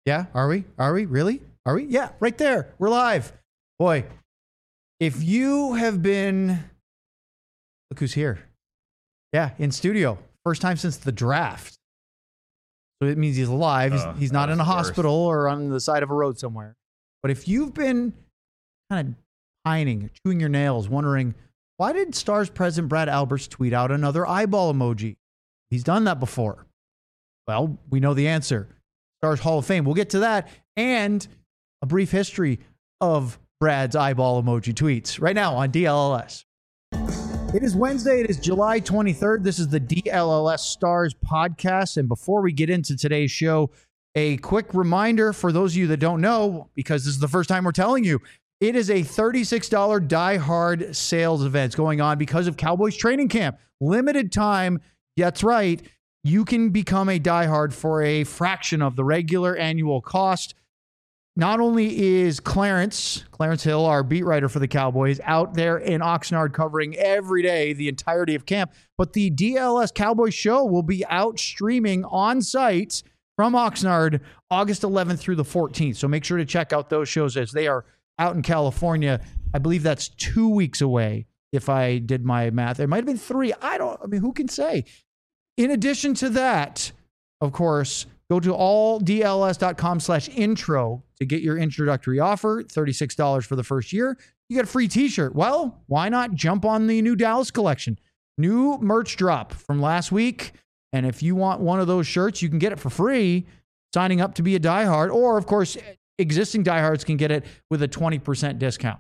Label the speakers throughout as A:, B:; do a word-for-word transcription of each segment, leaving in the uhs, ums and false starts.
A: Yeah, are we? Are we? Really? Are we? Yeah, right there. We're live. Boy, if you have been... Look who's here. Yeah, in studio. First time since the draft. So it means he's alive. He's,
B: Oh,
A: he's not in a hospital or on the side of a road somewhere. But if you've been kind of pining, chewing your nails, wondering, why did Stars president Brad Alberts tweet out another eyeball emoji? He's done that before. Well, we know the answer. Stars Hall of Fame. We'll get to that and a brief history of Brad's eyeball emoji tweets right now on D L L S. It is Wednesday. It is July twenty-third. This is the D L L S Stars podcast. And before we get into today's show, a quick reminder for those of you that don't know, because this is the first time we're telling you, it is a thirty-six dollars Die Hard sales event going on because of Cowboys training camp. Limited time. That's right. You can become a Die Hard for a fraction of the regular annual cost. Not only is Clarence, Clarence Hill, our beat writer for the Cowboys, out there in Oxnard covering every day, the entirety of camp, but the D L S Cowboys show will be out streaming on site from Oxnard August eleventh through the fourteenth. So make sure to check out those shows as they are out in California. I believe that's two weeks away, if I did my math. It might have been three. I don't, I mean, who can say? In addition to that, of course, go to alldls.com slash intro to get your introductory offer, thirty-six dollars for the first year. You get a free t-shirt. Well, why not jump on the new Dallas collection? New merch drop from last week. And if you want one of those shirts, you can get it for free signing up to be a diehard. Or, of course, existing diehards can get it with a twenty percent discount.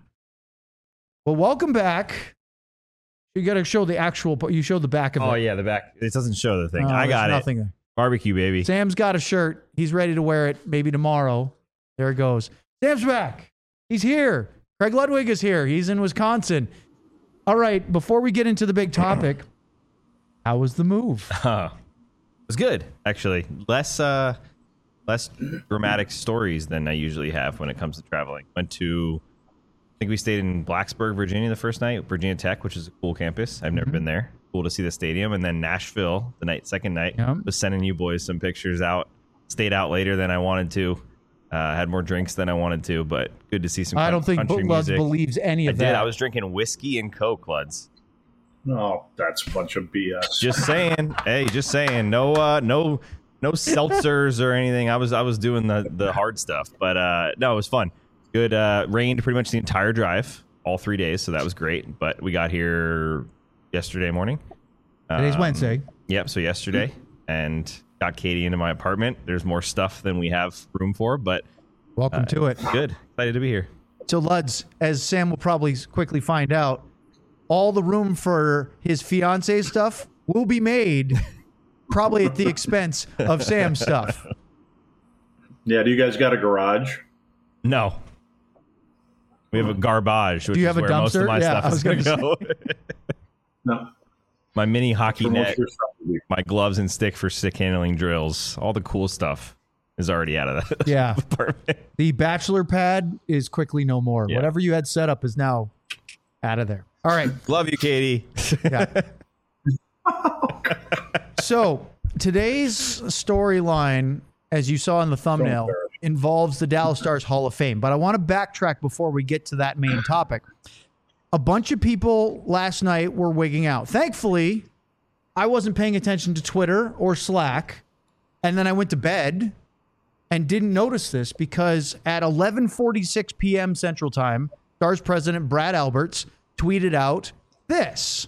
A: Well, welcome back. You got to show the actual, you show the back of it.
B: Oh, yeah, the back. It doesn't show the thing.
A: Oh,
B: I got
A: there's
B: it.
A: nothing there.
B: Barbecue, baby.
A: Sam's got a shirt. He's ready to wear it maybe tomorrow. There it goes. Sam's back. He's here. Craig Ludwig is here. He's in Wisconsin. All right, before we get into the big topic, how was the move?
B: Uh, it was good, actually. Less uh, less dramatic stories than I usually have when it comes to traveling. Went to, I think we stayed in Blacksburg, Virginia the first night, Virginia Tech, which is a cool campus. I've never
A: Mm-hmm.
B: been there. Cool to see the stadium. And then Nashville, the night, second night,
A: Yep.
B: was sending you boys some pictures out. Stayed out later than I wanted to. Uh, had more drinks than I wanted to, but good to see some
A: I don't think
B: country
A: Luds
B: music.
A: believes any
B: I
A: of
B: did.
A: that.
B: I was drinking whiskey and Coke, Luds.
C: Oh, that's a bunch of B S.
B: Just saying. Hey, just saying. No, uh, no, no seltzers or anything. I was, I was doing the the hard stuff, but uh, no, it was fun. Good. Uh, rained pretty much the entire drive, all three days, so that was great. But we got here yesterday morning.
A: Today's
B: Um,
A: Wednesday.
B: Yep. So yesterday, and got Katie into my apartment. There's more stuff than we have room for, but
A: Welcome
B: uh,
A: to it.
B: good. Excited to be here.
A: So, Luds, as Sam will probably quickly find out, all the room for his fiance stuff will be made probably at the expense of Sam's stuff.
C: Yeah, do you guys got a garage?
B: No. We have a garbage, which
A: Do you
B: is
A: have a
B: where most of
A: dumpster?
B: my
A: Yeah, I
B: stuff
A: was
B: is going to
A: gonna
B: go.
C: No.
B: My mini hockey
C: For most
B: net,
C: of your stuff will be-
B: my gloves and stick for stick handling drills, all the cool stuff is already out of that
A: Yeah.
B: apartment.
A: The bachelor pad is quickly no more.
B: Yeah.
A: Whatever you had set up is now out of there. All right.
B: Love you, Katie.
A: Yeah. So today's storyline, as you saw in the thumbnail, involves the Dallas Stars Hall of Fame. But I want to backtrack before we get to that main topic. A bunch of people last night were wigging out. Thankfully, I wasn't paying attention to Twitter or Slack. And then I went to bed and didn't notice this because at eleven forty-six p.m. Central Time, Stars president Brad Alberts tweeted out this.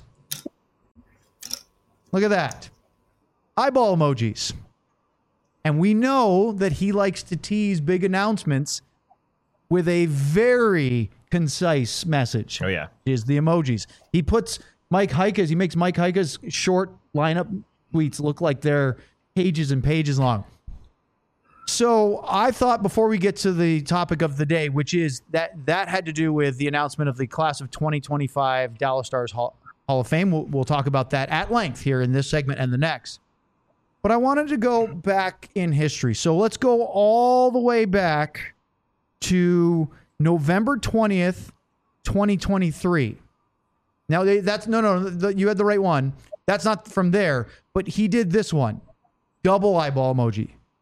A: Look at that. Eyeball emojis. And we know that he likes to tease big announcements with a very concise message.
B: Oh, yeah.
A: Is the emojis. He puts Mike Heika's, he makes Mike Heika's short lineup tweets look like they're pages and pages long. So I thought before we get to the topic of the day, which is that that had to do with the announcement of the class of twenty twenty-five Dallas Stars Hall, Hall of Fame. We'll, we'll talk about that at length here in this segment and the next. But I wanted to go back in history. So let's go all the way back to November twentieth, twenty twenty-three. Now, they, that's no, no, the, you had the right one. That's not from there, but he did this one. Double eyeball emoji.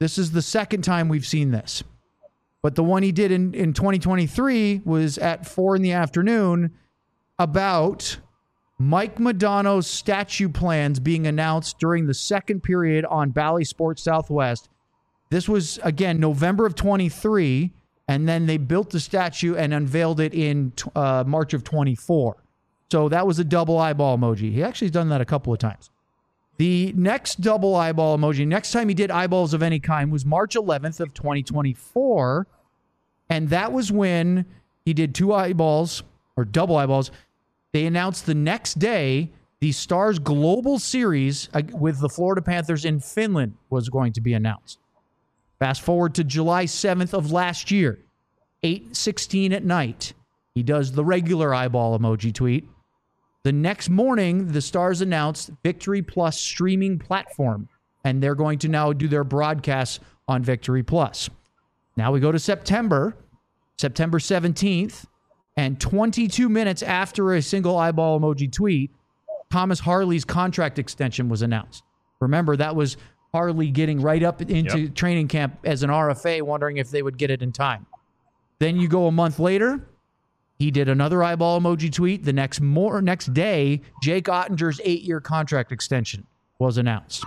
A: This is the second time we've seen this. But the one he did in, in twenty twenty-three was at four in the afternoon about Mike Modano's statue plans being announced during the second period on Bally Sports Southwest. This was, again, November of twenty-three, and then they built the statue and unveiled it in uh, March of twenty-four. So that was a double eyeball emoji. He actually has done that a couple of times. The next double eyeball emoji, next time he did eyeballs of any kind, was March eleventh of twenty twenty-four. And that was when he did two eyeballs, or double eyeballs. They announced the next day the Stars Global Series with the Florida Panthers in Finland was going to be announced. Fast forward to July seventh of last year, eight sixteen at night. He does the regular eyeball emoji tweet. The next morning, the Stars announced Victory Plus streaming platform, and they're going to now do their broadcasts on Victory Plus. Now we go to September, September seventeenth, and twenty-two minutes after a single eyeball emoji tweet, Thomas Harley's contract extension was announced. Remember, that was Harley getting right up into yep. training camp as an R F A, wondering if they would get it in time. Then you go a month later, he did another eyeball emoji tweet. The next more next day, Jake Ottinger's eight-year contract extension was announced.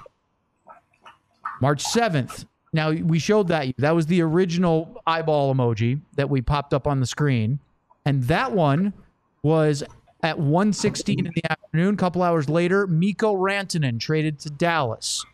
A: March seventh. Now, we showed that. That was the original eyeball emoji that we popped up on the screen. And that one was at one sixteen in the afternoon. A couple hours later, Mikko Rantanen traded to Dallas.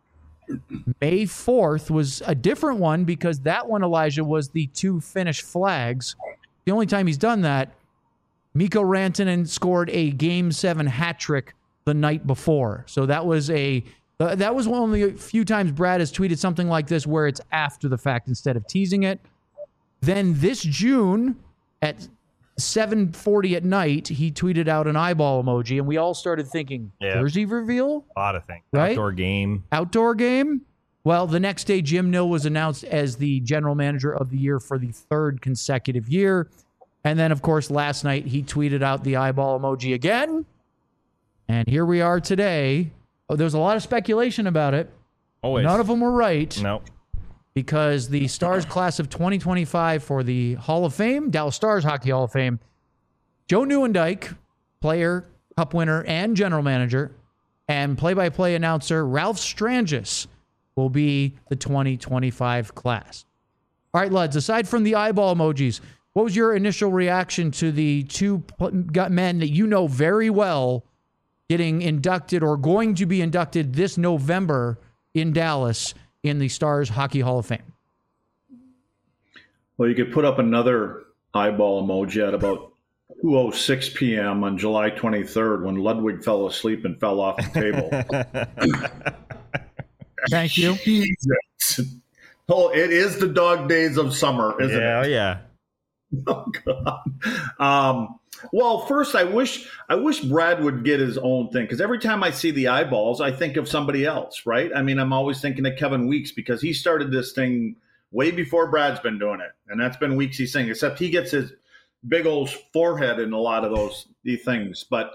A: May fourth was a different one because that one, Elijah, was the two Finnish flags. The only time he's done that, Mikko Rantanen scored a Game seven hat trick the night before. So that was a uh, that was one of the few times Brad has tweeted something like this where it's after the fact instead of teasing it. Then this June at seven forty at night, he tweeted out an eyeball emoji, and we all started thinking,
B: yeah.
A: jersey reveal?
B: A lot of things.
A: Right?
B: Outdoor game.
A: Outdoor game? Well, the next day, Jim Nill was announced as the general manager of the year for the third consecutive year. And then, of course, last night, he tweeted out the eyeball emoji again. And here we are today. Oh, there was a lot of speculation about it.
B: Always.
A: None of them were right.
B: No.
A: Because the Stars class of twenty twenty-five for the Hall of Fame, Dallas Stars Hockey Hall of Fame, Joe Nieuwendyk, player, cup winner, and general manager, and play-by-play announcer Ralph Strangis will be the twenty twenty-five class. All right, lads, aside from the eyeball emojis, what was your initial reaction to the two men that you know very well getting inducted or going to be inducted this November in Dallas in the Stars Hockey Hall of Fame?
C: Well, you could put up another eyeball emoji at about two oh six p.m. on July twenty-third when Ludwig fell asleep and fell off the table.
A: Thank you.
C: Jesus. Oh, it is the dog days of summer, isn't
B: yeah,
C: it?
B: Yeah,
C: Oh God. Um, well, first, I wish I wish Brad would get his own thing, because every time I see the eyeballs, I think of somebody else, right? I mean, I'm always thinking of Kevin Weeks because he started this thing way before Brad's been doing it, and that's been Weeksy thing. Except he gets his big old forehead in a lot of those things. But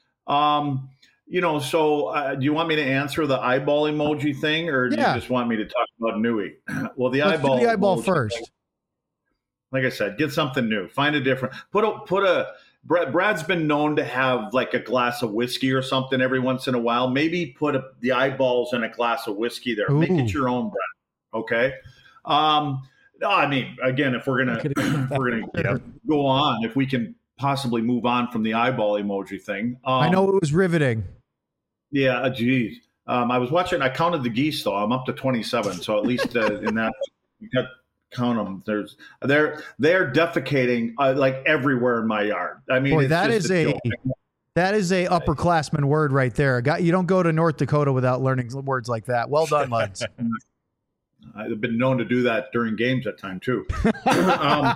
C: um, you know, so uh, do you want me to answer the eyeball emoji thing, or do
A: Yeah.
C: you just want me to talk about Nui? Well, the
A: Let's
C: eyeball,
A: do the eyeball
C: emoji
A: first.
C: thing, like I said, get something new. Find a different. Put a put a. Brad, Brad's been known to have like a glass of whiskey or something every once in a while. Maybe put a, the eyeballs in a glass of whiskey there.
A: Ooh.
C: Make it your own, Brad. Okay. Um, no, I mean, again, if we're gonna if we're gonna yeah, go on, if we can possibly move on from the eyeball emoji thing. Um,
A: I know it was riveting.
C: Yeah. Geez. Um, I was watching. I counted the geese, though. I'm up to twenty-seven. So at least uh, in that, you got. Count them. There's they're they're defecating uh, like everywhere in my yard. I mean,
A: Boy,
C: it's
A: that
C: just
A: is a
C: joke.
A: that is a upperclassman word right there. Got you don't go to North Dakota without learning words like that. Well done, lads.
C: I've been known to do that during games at time too. um,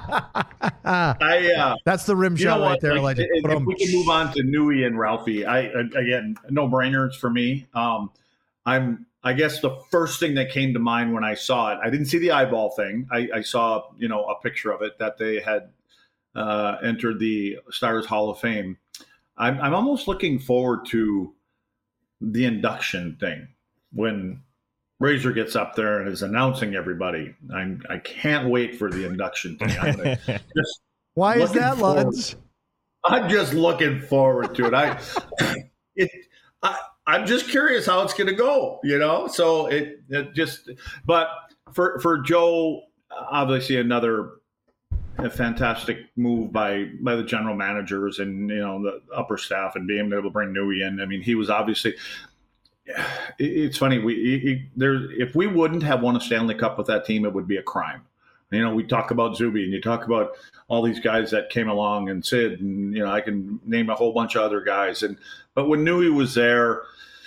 C: I uh,
A: That's the rim
C: you
A: shot
C: know
A: right
C: what?
A: there.
C: Like,
A: Legend.
C: if, if we can move on to Nui and Ralphie, I again no brainers for me. Um, I'm. I guess the first thing that came to mind when I saw it, I didn't see the eyeball thing. I, I saw, you know, a picture of it that they had uh, entered the Stars Hall of Fame. I'm, I'm almost looking forward to the induction thing when Razor gets up there and is announcing everybody. I'm, I can't wait for the induction thing. I'm gonna just
A: Why is that,
C: forward.
A: Luds?
C: I'm just looking forward to it. I, it, I, I'm just curious how it's going to go, you know? So it, it just, but for, for Joe, obviously another a fantastic move by, by the general managers and, you know, the upper staff and being able to bring Newey in. I mean, he was obviously, it, it's funny. We, it, there, if we wouldn't have won a Stanley Cup with that team, it would be a crime. You know, we talk about Zuby and you talk about all these guys that came along and Sid, and, you know, I can name a whole bunch of other guys. And, but when Newey was there,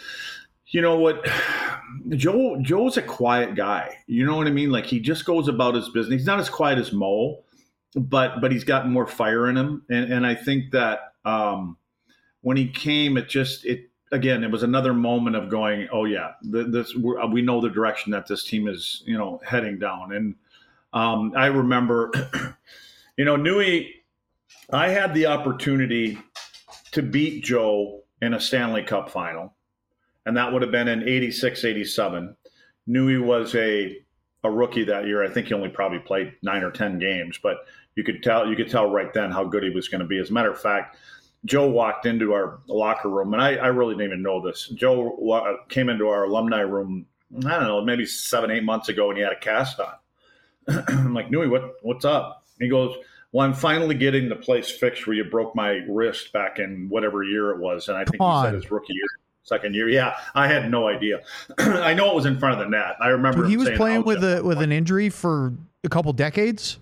C: you know what, Joe, Joe's a quiet guy. You know what I mean? Like, he just goes about his business. He's not as quiet as Mo, but, but he's got more fire in him. And, and I think that um, when he came, it just, it, again, it was another moment of going, oh yeah, this, we're, we know the direction that this team is, you know, heading down. And, Um, I remember, you know, Newey, I had the opportunity to beat Joe in a Stanley Cup final, and that would have been in eighty-six, eighty-seven. Newey was a a rookie that year. I think he only probably played nine or ten games, but you could tell you could tell right then how good he was going to be. As a matter of fact, Joe walked into our locker room, and I, I really didn't even know this. Joe wa- came into our alumni room, I don't know, maybe seven, eight months ago, and he had a cast on. I'm like, Newey, what, what's up? He goes, well, I'm finally getting the place fixed where you broke my wrist back in whatever year it was. And I think he said his rookie year, second year. Yeah, I had no idea. I know it was in front of the net. I remember
A: Dude, he
C: him
A: was
C: saying,
A: playing
C: oh,
A: with a with an injury for a couple decades.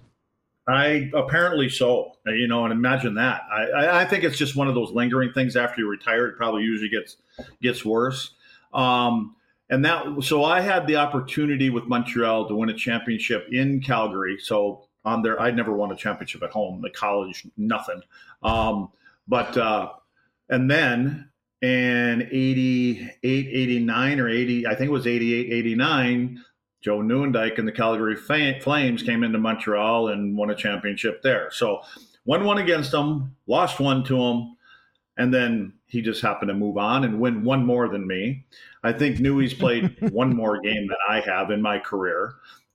C: I apparently so, you know, and imagine that. I, I, I think it's just one of those lingering things after you retire. It probably usually gets gets worse. Um, And that, so I had the opportunity with Montreal to win a championship in Calgary. So on there, I'd never won a championship at home, the college, nothing. Um, but, uh, and then in eighty-eight, eighty-nine or eighty, I think it was eighty-eight, eighty-nine, Joe Nieuwendyk and the Calgary Flames came into Montreal and won a championship there. So won one against them, lost one to them. And then he just happened to move on and win one more than me. I think Newey's played one more game than I have in my career.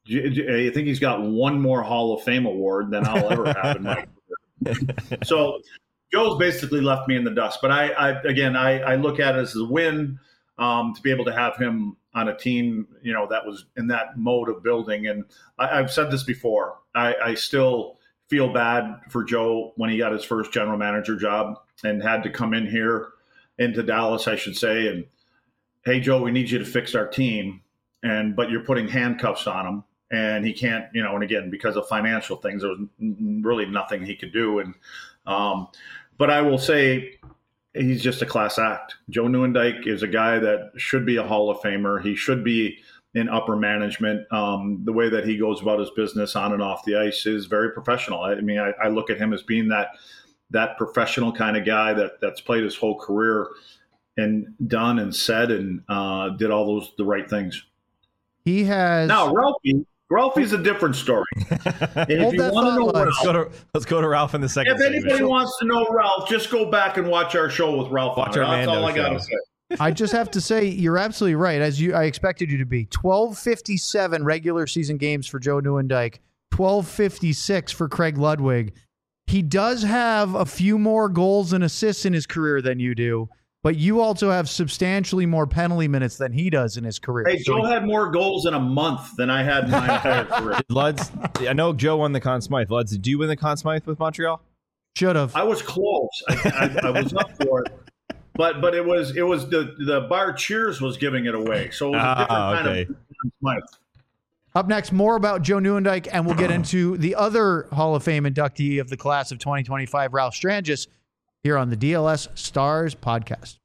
C: I think he's got one more Hall of Fame award than I'll ever have in my career. So Joe's basically left me in the dust. But I, I again, I, I look at it as a win um, to be able to have him on a team, you know, that was in that mode of building. And I, I've said this before. I, I still feel bad for Joe when he got his first general manager job and had to come in here into Dallas, I should say, and, hey, Joe, we need you to fix our team. And, but you're putting handcuffs on him and he can't, you know, and again, because of financial things, there was really nothing he could do. And, um, but I will say he's just a class act. Joe Nieuwendyk is a guy that should be a Hall of Famer. He should be in upper management. Um, the way that he goes about his business on and off the ice is very professional. I, I mean, I, I look at him as being that, that professional kind of guy that that's played his whole career and done and said and uh, did all those the right things.
A: He has
C: now Ralphie. Ralphie's a different story. And if you want to know Ralph,
B: let's go to let's go to Ralph in the second.
C: If anybody segment. wants to know Ralph, just go back and watch our show with Ralph.
B: Watch
C: on
B: our
C: That's
B: Mando
C: all I got to
B: show.
C: say.
A: I just have to say you're absolutely right. As you, I expected you to be. twelve fifty-seven regular season games for Joe Nieuwendyk. twelve fifty-six for Craig Ludwig. He does have a few more goals and assists in his career than you do, but you also have substantially more penalty minutes than he does in his career.
C: Hey,
A: so
C: Joe
A: he,
C: had more goals in a month than I had in my entire career.
B: Luds, I know Joe won the Conn Smythe. Luds, did you win the Conn Smythe with Montreal?
A: should have.
C: I was close. I, I, I was up for it, but but it was it was the the bar Cheers was giving it away, so it was a different
B: Ah,
C: kind
B: okay.
C: of Conn Smythe.
A: Up next, more about Joe Nieuwendyk, and we'll get into the other Hall of Fame inductee of the class of twenty twenty-five, Ralph Strangis, here on the D L S Stars podcast.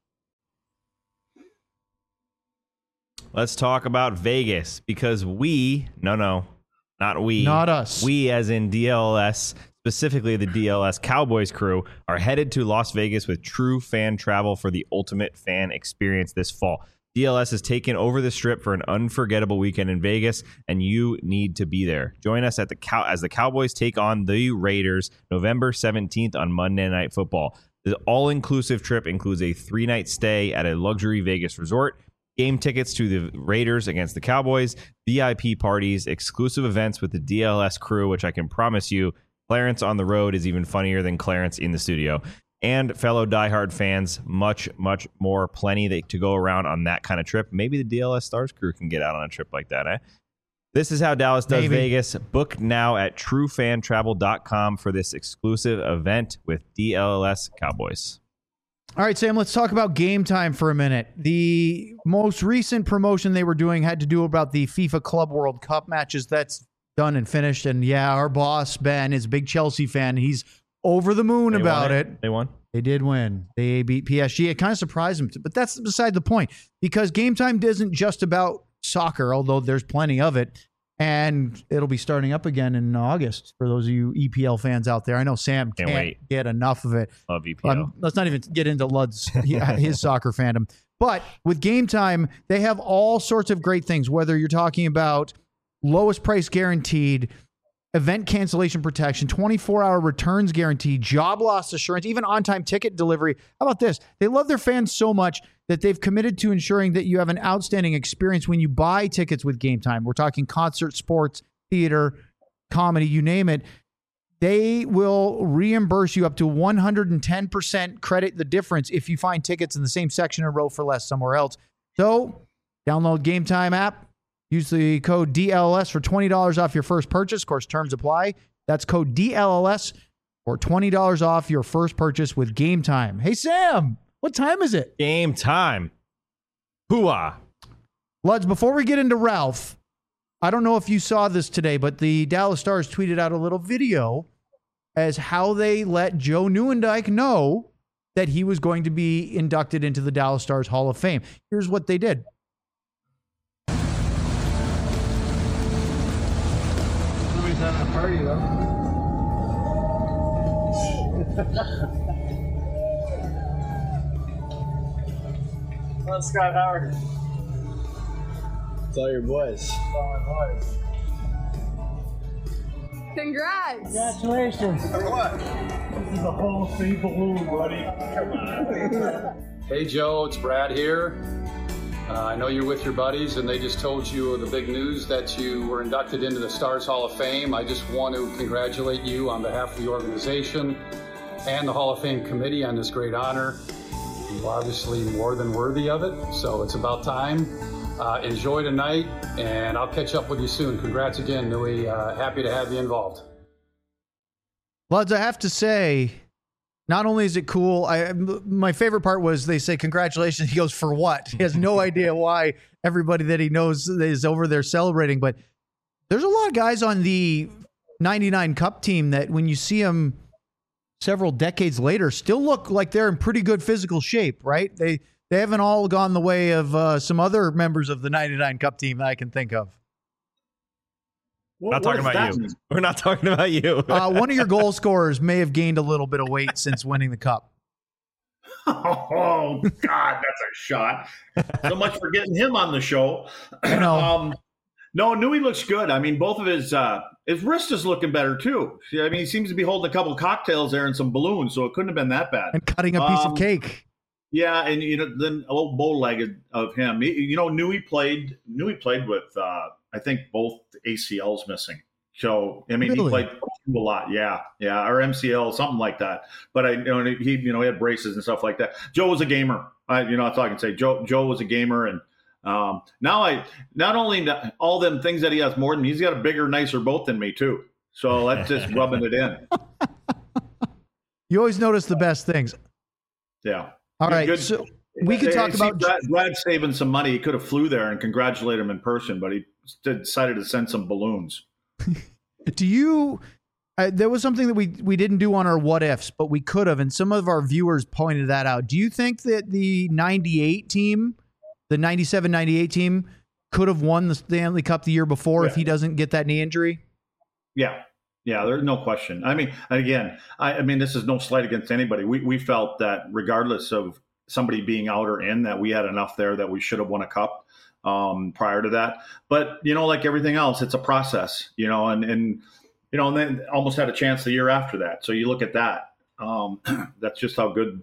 B: Let's talk about Vegas because we, no, no, not we.
A: Not us.
B: We, as in D L S, specifically the D L S Cowboys crew, are headed to Las Vegas with true fan travel for the ultimate fan experience this fall. D L S has taken over the Strip for an unforgettable weekend in Vegas, and you need to be there. Join us at the Cow- as the Cowboys take on the Raiders November seventeenth on Monday Night Football. The all-inclusive trip includes a three-night stay at a luxury Vegas resort, game tickets to the Raiders against the Cowboys, V I P parties, exclusive events with the D L S crew, which I can promise you, Clarence on the road is even funnier than Clarence in the studio. And fellow diehard fans, much, much more, plenty that, to go around on that kind of trip. Maybe the D L S Stars crew can get out on a trip like that, eh? This is how Dallas does
A: Maybe.
B: Vegas. Book now at true fan travel dot com for this exclusive event with D L S Cowboys.
A: All right, Sam, let's talk about Game Time for a minute. The most recent promotion they were doing had to do about the FIFA Club World Cup matches. That's done and finished. And yeah, our boss, Ben, is a big Chelsea fan. He's over the moon
B: They
A: about
B: won
A: it.
B: it. They won.
A: They did win. They beat P S G. It kind of surprised them, but that's beside the point because Game Time isn't just about soccer, although there's plenty of it. And it'll be starting up again in August for those of you E P L fans out there. I know Sam
B: Can't
A: can't,
B: wait.
A: get enough of it.
B: Love E P L.
A: Um, let's not even get into Lud's his soccer fandom. But with Game Time, they have all sorts of great things, whether you're talking about lowest price guaranteed, event cancellation protection, twenty-four hour returns guarantee, job loss assurance, even on-time ticket delivery. How about this? They love their fans so much that they've committed to ensuring that you have an outstanding experience when you buy tickets with Game Time. We're talking concert, sports, theater, comedy, you name it. They will reimburse you up to one hundred ten percent credit the difference if you find tickets in the same section or row for less somewhere else. So download Game Time app. Use the code D L L S for twenty dollars off your first purchase. Of course, terms apply. That's code D L L S for twenty dollars off your first purchase with Game Time. Hey, Sam, what time is it?
B: Game time. Hooah.
A: Luds, before we get into Ralph, I don't know if you saw this today, but the Dallas Stars tweeted out a little video as how they let Joe Nieuwendyk know that he was going to be inducted into the Dallas Stars Hall of Fame. Here's what they did.
D: Somebody's having a party, though. Come on, Scott Howard.
E: It's all your boys.
D: It's all my boys.
F: Congrats!
D: Congratulations. For what? This is a whole free balloon, buddy. Come on.
G: Hey Joe, it's Brad here. Uh, I know you're with your buddies and they just told you the big news that you were inducted into the Stars Hall of Fame. I just want to congratulate you on behalf of the organization and the Hall of Fame committee on this great honor. You're obviously more than worthy of it, so it's about time. Uh, enjoy tonight, and I'll catch up with you soon. Congrats again, Nui. Uh, happy to have you involved.
A: Luds, I have to say, not only is it cool, I my favorite part was they say, congratulations. He goes, for what? He has no idea why everybody that he knows is over there celebrating. But there's a lot of guys on the ninety-nine Cup team that when you see them several decades later, still look like they're in pretty good physical shape, right? They they haven't all gone the way of uh, some other members of the ninety-nine Cup team that I can think of.
C: What,
B: Not
C: what
B: talking
C: does
B: about
C: that
B: you.
C: mean?
B: We're not talking about you.
A: Uh, one of your goal scorers may have gained a little bit of weight since winning the Cup.
C: Oh, God, that's a shot. So much for getting him on the show.
A: I know.
C: Um, no, Nui looks good. I mean, both of his uh, his wrist is looking better, too. I mean, he seems to be holding a couple of cocktails there and some balloons, so it couldn't have been that bad.
A: And cutting a piece
C: Um,
A: of cake.
C: Yeah, and you know, then a little bow-legged of him. He, you know, Nui played. Nui played with, uh, I think, both A C Ls missing. So I mean,
A: Really?
C: he played a lot. Yeah, yeah, or M C L, something like that. But I, you know, he, you know, he had braces and stuff like that. Joe was a gamer. I, you know, that's all I can say. Joe, Joe was a gamer, and um, now I not only all them things that he has more than me, he's got a bigger, nicer boat than me too. So that's just rubbing it in.
A: You always notice the best things.
C: Yeah.
A: All right,
C: Good.
A: so we could
C: I- I
A: talk
C: see
A: about
C: Brad, Brad saving some money. He could have flew there and congratulate him in person, but he decided to send some balloons.
A: do you uh, there was something that we we didn't do on our what ifs, but we could have, and some of our viewers pointed that out. Do you think that the ninety-eight team, the ninety-seven ninety-eight team, could have won the Stanley Cup the year before if
C: Yeah.
A: he doesn't get that knee injury?
C: Yeah. Yeah, there's no question. I mean, again, I, I mean, this is no slight against anybody. We we felt that regardless of somebody being out or in, that we had enough there that we should have won a cup um, prior to that. But, you know, like everything else, it's a process, you know, and, and you know, and then almost had a chance the year after that. So you look at that. Um, that's just how good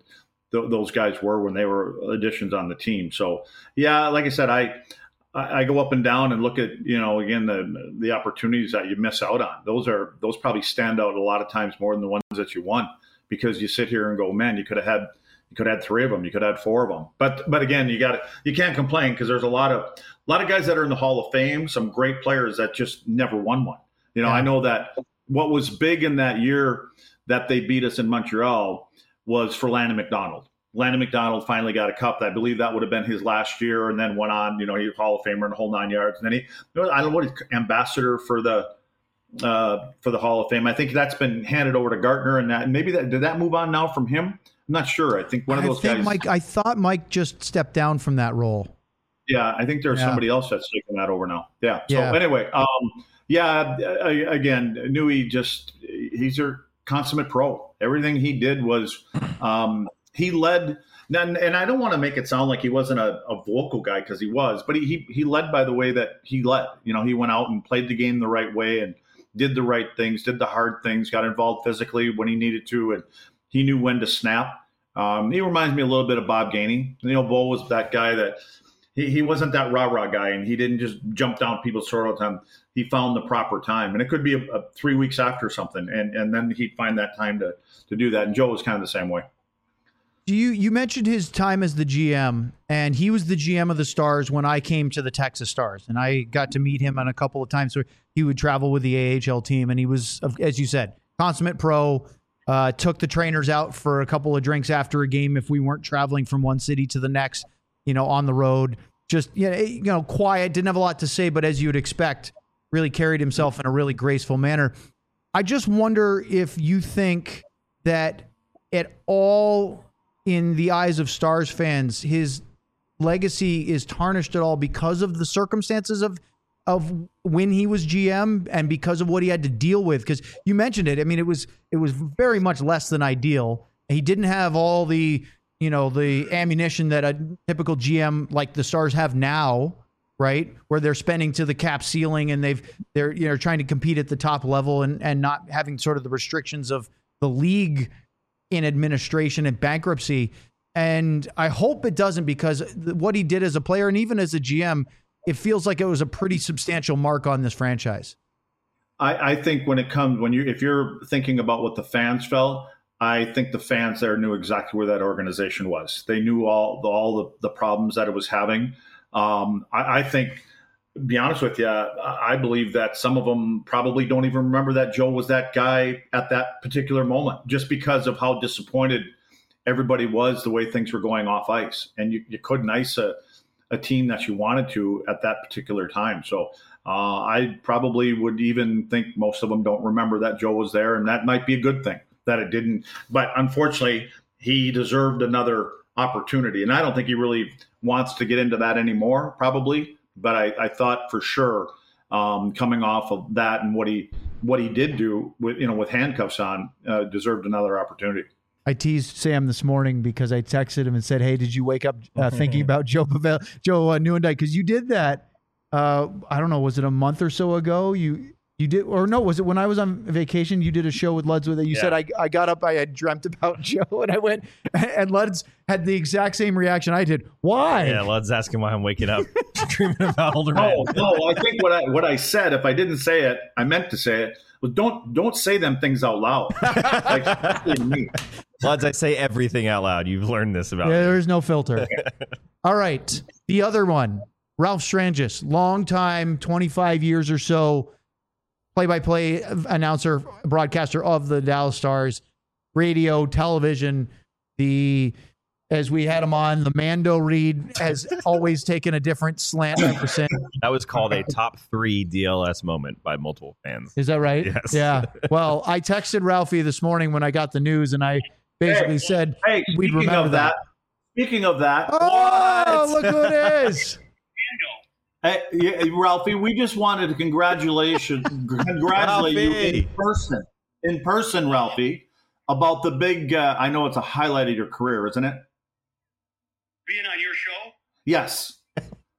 C: th- those guys were when they were additions on the team. So, yeah, like I said, I I go up and down and look at, you know, again, the the opportunities that you miss out on. Those are those probably stand out a lot of times more than the ones that you won, because you sit here and go, man, you could have had you could have had three of them, you could have had four of them. But but again, you got you can't complain, because there's a lot of a lot of guys that are in the Hall of Fame, some great players that just never won one. You know, yeah. I know that what was big in that year that they beat us in Montreal was for Landon McDonald. Landon McDonald finally got a cup. I believe that would have been his last year, and then went on, you know, he was Hall of Famer in the whole nine yards. And then he, I don't know what, he's ambassador for the uh, for the Hall of Fame. I think that's been handed over to Gartner, and that maybe that did that move on now from him. I'm not sure. I think one of those
A: I think
C: guys.
A: Mike, I thought Mike just stepped down from that role.
C: Yeah, I think there's yeah. somebody else that's taking that over now. Yeah. So
A: yeah.
C: anyway, um, yeah, again, Newey just he's a consummate pro. Everything he did was. Um, He led, and, and I don't want to make it sound like he wasn't a, a vocal guy, because he was, but he, he he led by the way that he led. You know, he went out and played the game the right way and did the right things, did the hard things, got involved physically when he needed to, and he knew when to snap. Um, he reminds me a little bit of Bob Gainey. You know, Bo was that guy that he, he wasn't that rah-rah guy, and he didn't just jump down people's throat all the time. He found the proper time, and it could be a, a three weeks after something, and, and then he'd find that time to to do that. And Joe was kind of the same way.
A: You you mentioned his time as the G M, and he was the G M of the Stars when I came to the Texas Stars, and I got to meet him on a couple of times where he would travel with the A H L team, and he was, as you said, consummate pro. Uh, took the trainers out for a couple of drinks after a game if we weren't traveling from one city to the next, you know, on the road. Just you know, you know, quiet, didn't have a lot to say, but as you would expect, really carried himself in a really graceful manner. I just wonder if you think that at all, in the eyes of Stars fans, his legacy is tarnished at all because of the circumstances of of when he was G M and because of what he had to deal with. Because you mentioned it. I mean, it was it was very much less than ideal. He didn't have all the, you know, the ammunition that a typical G M like the Stars have now, right? Where they're spending to the cap ceiling and they've they're you know trying to compete at the top level and and not having sort of the restrictions of the league in administration and bankruptcy. And I hope it doesn't, because what he did as a player and even as a G M, it feels like it was a pretty substantial mark on this franchise.
C: I, I think when it comes, when you, if you're thinking about what the fans felt, I think the fans there knew exactly where that organization was. They knew all the, all the, the problems that it was having. Um, I, I think, to be honest with you, I believe that some of them probably don't even remember that Joe was that guy at that particular moment, just because of how disappointed everybody was the way things were going off ice. And you, you couldn't ice a, a team that you wanted to at that particular time. So uh, I probably would even think most of them don't remember that Joe was there, and that might be a good thing that it didn't. But unfortunately, he deserved another opportunity. And I don't think he really wants to get into that anymore, probably. But I, I thought for sure, um, coming off of that and what he what he did do with you know with handcuffs on, uh, deserved another opportunity.
A: I teased Sam this morning because I texted him and said, "Hey, did you wake up uh, thinking about Joe Pavel, Joe uh, Nieuwendyk? Because you did that. Uh, I don't know, was it a month or so ago? You you did, or no? Was it when I was on vacation? You did a show with Luds with it. You yeah. said I I got up, I had dreamt about Joe, and I went, and Luds had the exact same reaction I did. Why?
B: Yeah, Luds asking why I'm waking up dreaming about older men.
C: No, no, I think what I what I said, if I didn't say it, I meant to say it. Well, don't don't say them things out loud. Like me.
B: Luds, I say everything out loud. You've learned this about
A: yeah,
B: me.
A: There's no filter. All right, the other one, Ralph Strangis, longtime, twenty-five years or so, play-by-play announcer, broadcaster of the Dallas Stars, radio, television. The as we had him on, the Mando read has always taken a different slant ever since.
B: That was called a top three D L S moment by multiple fans.
A: Is that right?
B: Yes.
A: Yeah. Well, I texted Ralphie this morning when I got the news, and I basically
C: hey,
A: said
C: hey,
A: we'd remember
C: of that, that. Speaking of that,
A: oh, what? Look who it is.
C: Hey, yeah, Ralphie, we just wanted to congratulation, congratulate you in person, in person, Ralphie, about the big. Uh, I know it's a highlight of your career, isn't it?
F: Being on your show?
C: Yes.
F: Yeah.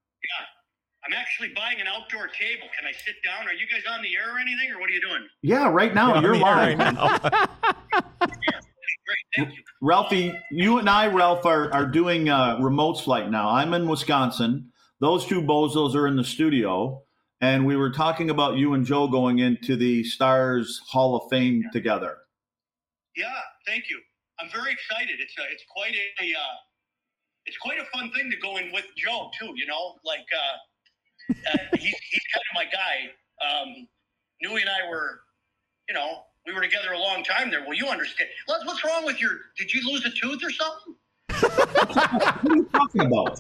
F: I'm actually buying an outdoor table. Can I sit down? Are you guys on the air or anything, or what are you doing?
C: Yeah, right now.
B: You're,
C: you're live.
B: Right now.
F: Yeah, great. Thank you.
C: Ralphie, you and I, Ralph, are, are doing uh, remote flight now. I'm in Wisconsin. Those two bozos are in the studio. And we were talking about you and Joe going into the Stars Hall of Fame together.
F: Yeah, thank you. I'm very excited. It's a, it's quite a, uh, it's quite a fun thing to go in with Joe too. You know, like uh, uh, he's he's kind of my guy. Um, Newey and I were, you know, we were together a long time there. Well, you understand. Les, what's wrong with your? Did you lose a tooth or something?
C: What are you talking about?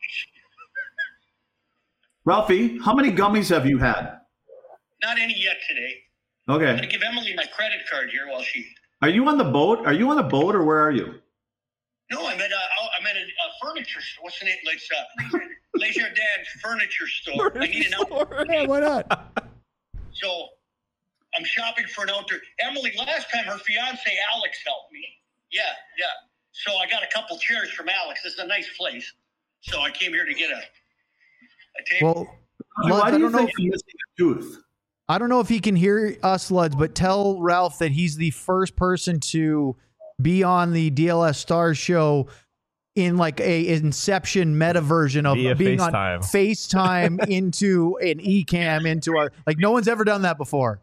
C: Ralphie, how many gummies have you had?
F: Not any yet today. I'm
C: Okay.
F: gonna give Emily my credit card here while she.
C: Are you on the boat? Are you on a boat or where are you?
F: No, I'm at a, I'm at a, a furniture store. What's the name? Like uh, Les Jardins Furniture Store. I need an outdoor.
A: Yeah, why not?
F: So I'm shopping for an outdoor. Emily, last time her fiance Alex helped me. Yeah, yeah. So I got a couple chairs from Alex. This is a nice place. So I came here to get a, a table.
A: Well,
C: Why
A: Luds,
C: do
A: I
C: you
A: don't know.
C: think
A: If,
C: you're missing a tooth?
A: I don't know if he can hear us, Luds, but tell Ralph that he's the first person to be on the D L S Stars show in like a Inception meta version of
B: Via
A: being
B: FaceTime.
A: on FaceTime into an eCam into our like no one's ever done that before.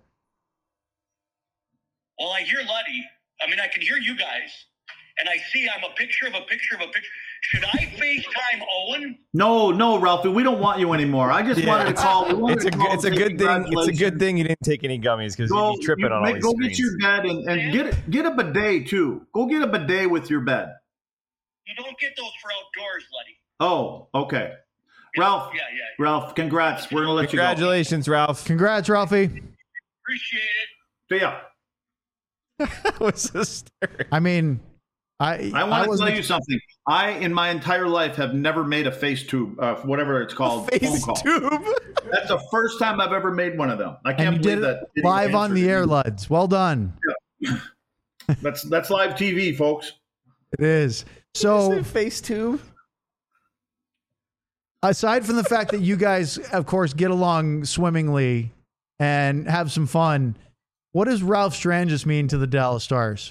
F: Well, I hear Luddy. I mean, I can hear you guys, and I see I'm a picture of a picture of a picture. Should I FaceTime Owen?
C: No, no, Ralphie, we don't want you anymore. I just
B: Yeah,
C: wanted to
B: it's-
C: call. we wanted
B: It's a
C: to
B: good,
C: call
B: it's a
C: and say
B: good thing. It's a good
C: congratulations.
B: thing you didn't take any gummies because
C: Go,
B: you'd be tripping
C: you,
B: on all
C: make-
B: these
C: go
B: screens.
C: get your bed and, and get get a bidet too. Go get a bidet with your bed.
F: You don't get those for outdoors, Luddy.
C: Oh, okay. Ralph,
F: Yeah, yeah.
C: Ralph, congrats. We're gonna let you go.
B: Congratulations, Ralph.
A: Congrats, Ralphie.
F: Appreciate it.
C: See ya.
B: That was hysterical.
A: I mean, I
C: I want to
A: wasn't
C: tell you something. I, in my entire life, have never made a face tube, uh, whatever it's called, phone
B: Face
C: call.
B: tube.
C: That's the first time I've ever made one of them. I can't
A: and you
C: believe
A: did
C: that.
A: it
C: idiot
A: live on
C: answered
A: the
C: me.
A: air, Luds. Well done.
C: That's that's live T V, folks.
A: It is. So
B: Face tube.
A: aside from the fact that you guys, of course, get along swimmingly and have some fun, what does Ralph Strangis mean to the Dallas Stars?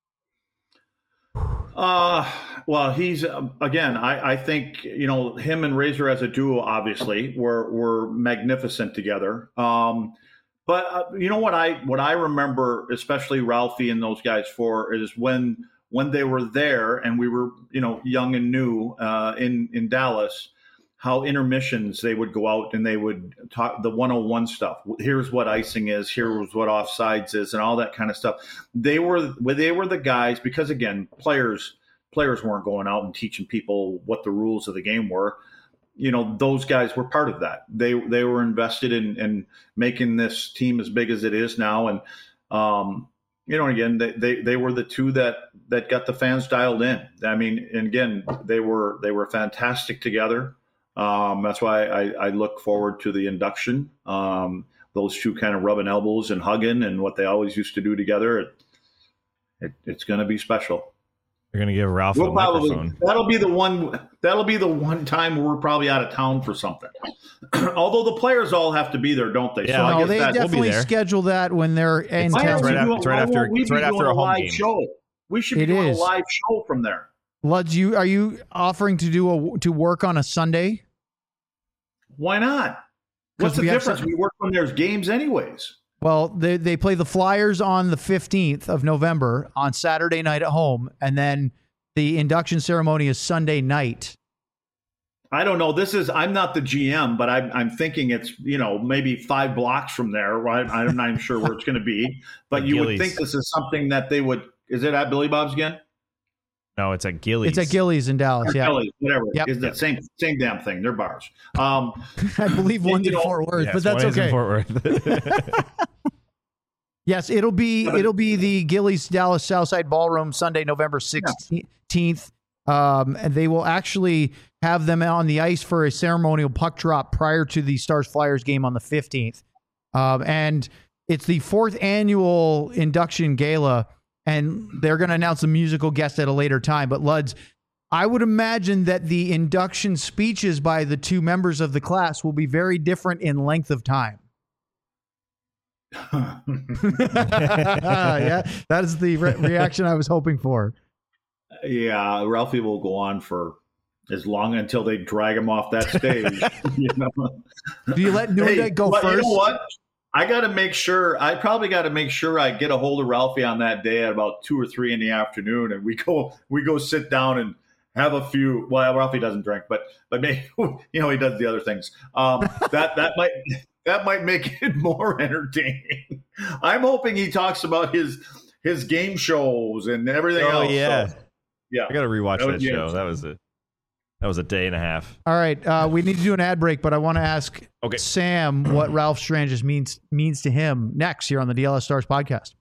C: Uh, well, he's uh, again. I, I think you know him and Razor as a duo. Obviously, were were magnificent together. Um, but uh, you know what I what I remember, especially Ralphie and those guys for, is when when they were there and we were you know young and new uh, in in Dallas. How intermissions they would go out and they would talk the one oh one stuff. Here's what icing is. Here's what offsides is, and all that kind of stuff. They were they were the guys because again, players players weren't going out and teaching people what the rules of the game were. You know, those guys were part of that. They they were invested in, in making this team as big as it is now, and um, you know, again, they, they they were the two that that got the fans dialed in. I mean, and again, they were they were fantastic together. Um, that's why I, I look forward to the induction. Um, those two kind of rubbing elbows and hugging and what they always used to do together. It, it, it's going to be special.
B: You're gonna give Ralph
C: We'll
B: a
C: probably,
B: microphone.
C: that'll be the one. That'll be the one time we're probably out of town for something. Although the players all have to be there, don't they?
B: Yeah.
C: so I
A: No,
C: guess
A: they
C: that,
A: definitely
B: there.
A: schedule that when they're in
C: Why
B: It's
C: aren't
A: town.
C: we
B: right
C: doing-
B: after- it's right
C: why
B: after-
C: won't we
B: it's
C: be
B: right after
C: doing
B: a home
C: live
B: game.
C: show. We should be
A: It
C: doing
A: is.
C: a live show from there.
A: Luds, you are you offering to do a to work on a Sunday?
C: Why not? What's
A: 'Cause
C: the
A: we have
C: difference?
A: some-
C: We work when there's games, anyways.
A: Well, they they play the Flyers on the fifteenth of November on Saturday night at home, and then the induction ceremony is Sunday night.
C: I don't know. This is, I'm not the G M, but I'm, I'm thinking it's, you know, maybe five blocks from there, right? I'm not even sure where it's going to be, but
B: At
C: you would
B: Gillies.
C: think this is something that they would, is it at Billy Bob's again?
B: No, it's at Gillies.
A: It's at Gillies in Dallas.
C: Or
A: Yeah,
C: Kelly's, whatever.
A: Yep.
C: It's the same, same damn thing. They're bars. Um,
A: I believe one's
C: You
A: in
C: know-
A: Fort Worth,
B: Yes,
A: but that's
B: one is in
A: okay.
B: Fort Worth.
A: Yes, it'll be it'll be the Gillies Dallas Southside Ballroom Sunday, November sixteenth. Um, and they will actually have them on the ice for a ceremonial puck drop prior to the Stars Flyers game on the fifteenth. Um, and it's the fourth annual induction gala, and they're going to announce a musical guest at a later time. But Luds, I would imagine that the induction speeches by the two members of the class will be very different in length of time. Yeah, that is the re- reaction I was hoping for.
C: yeah, Ralphie will go on for as long until they drag him off that stage. You know?
A: Do you let Newegg
C: Hey,
A: go
C: but
A: first?
C: You know what? I got to make sure. I probably got to make sure I get a hold of Ralphie on that day at about two or three in the afternoon, and we go we go sit down and have a few. Well, Ralphie doesn't drink, but but maybe you know he does the other things. Um, that that might that might make it more entertaining. I'm hoping he talks about his his game shows and everything
B: Oh
C: else.
B: yeah,
C: So, yeah.
B: I got to rewatch
C: That
B: that,
C: would be
B: show.
C: interesting.
B: That was a that was a day and a half.
A: All right, uh, we need to do an ad break, but I want to ask
B: Okay.
A: Sam what Ralph Strangis means means to him next here on the D L S Stars podcast.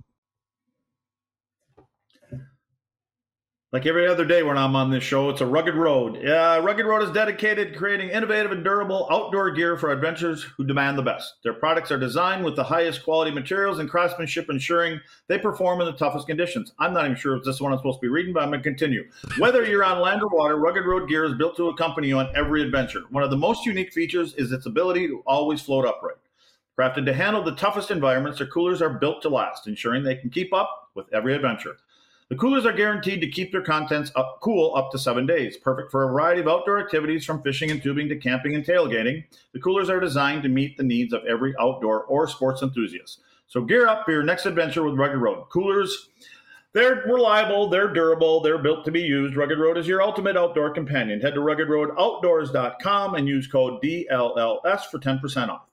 C: Like every other day when I'm on this show, it's a Rugged Road. Yeah, Rugged Road is dedicated to creating innovative and durable outdoor gear for adventurers who demand the best. Their products are designed with the highest quality materials and craftsmanship, ensuring they perform in the toughest conditions. I'm not even sure if this is what I'm supposed to be reading, but I'm going to continue. Whether you're on land or water, Rugged Road gear is built to accompany you on every adventure. One of the most unique features is its ability to always float upright. Crafted to handle the toughest environments, their coolers are built to last, ensuring they can keep up with every adventure. The coolers are guaranteed to keep their contents up, cool up to seven days, perfect for a variety of outdoor activities from fishing and tubing to camping and tailgating. The coolers are designed to meet the needs of every outdoor or sports enthusiast. So gear up for your next adventure with Rugged Road. Coolers, they're reliable, they're durable, they're built to be used. Rugged Road is your ultimate outdoor companion. Head to rugged road outdoors dot com and use code D L L S for ten percent off.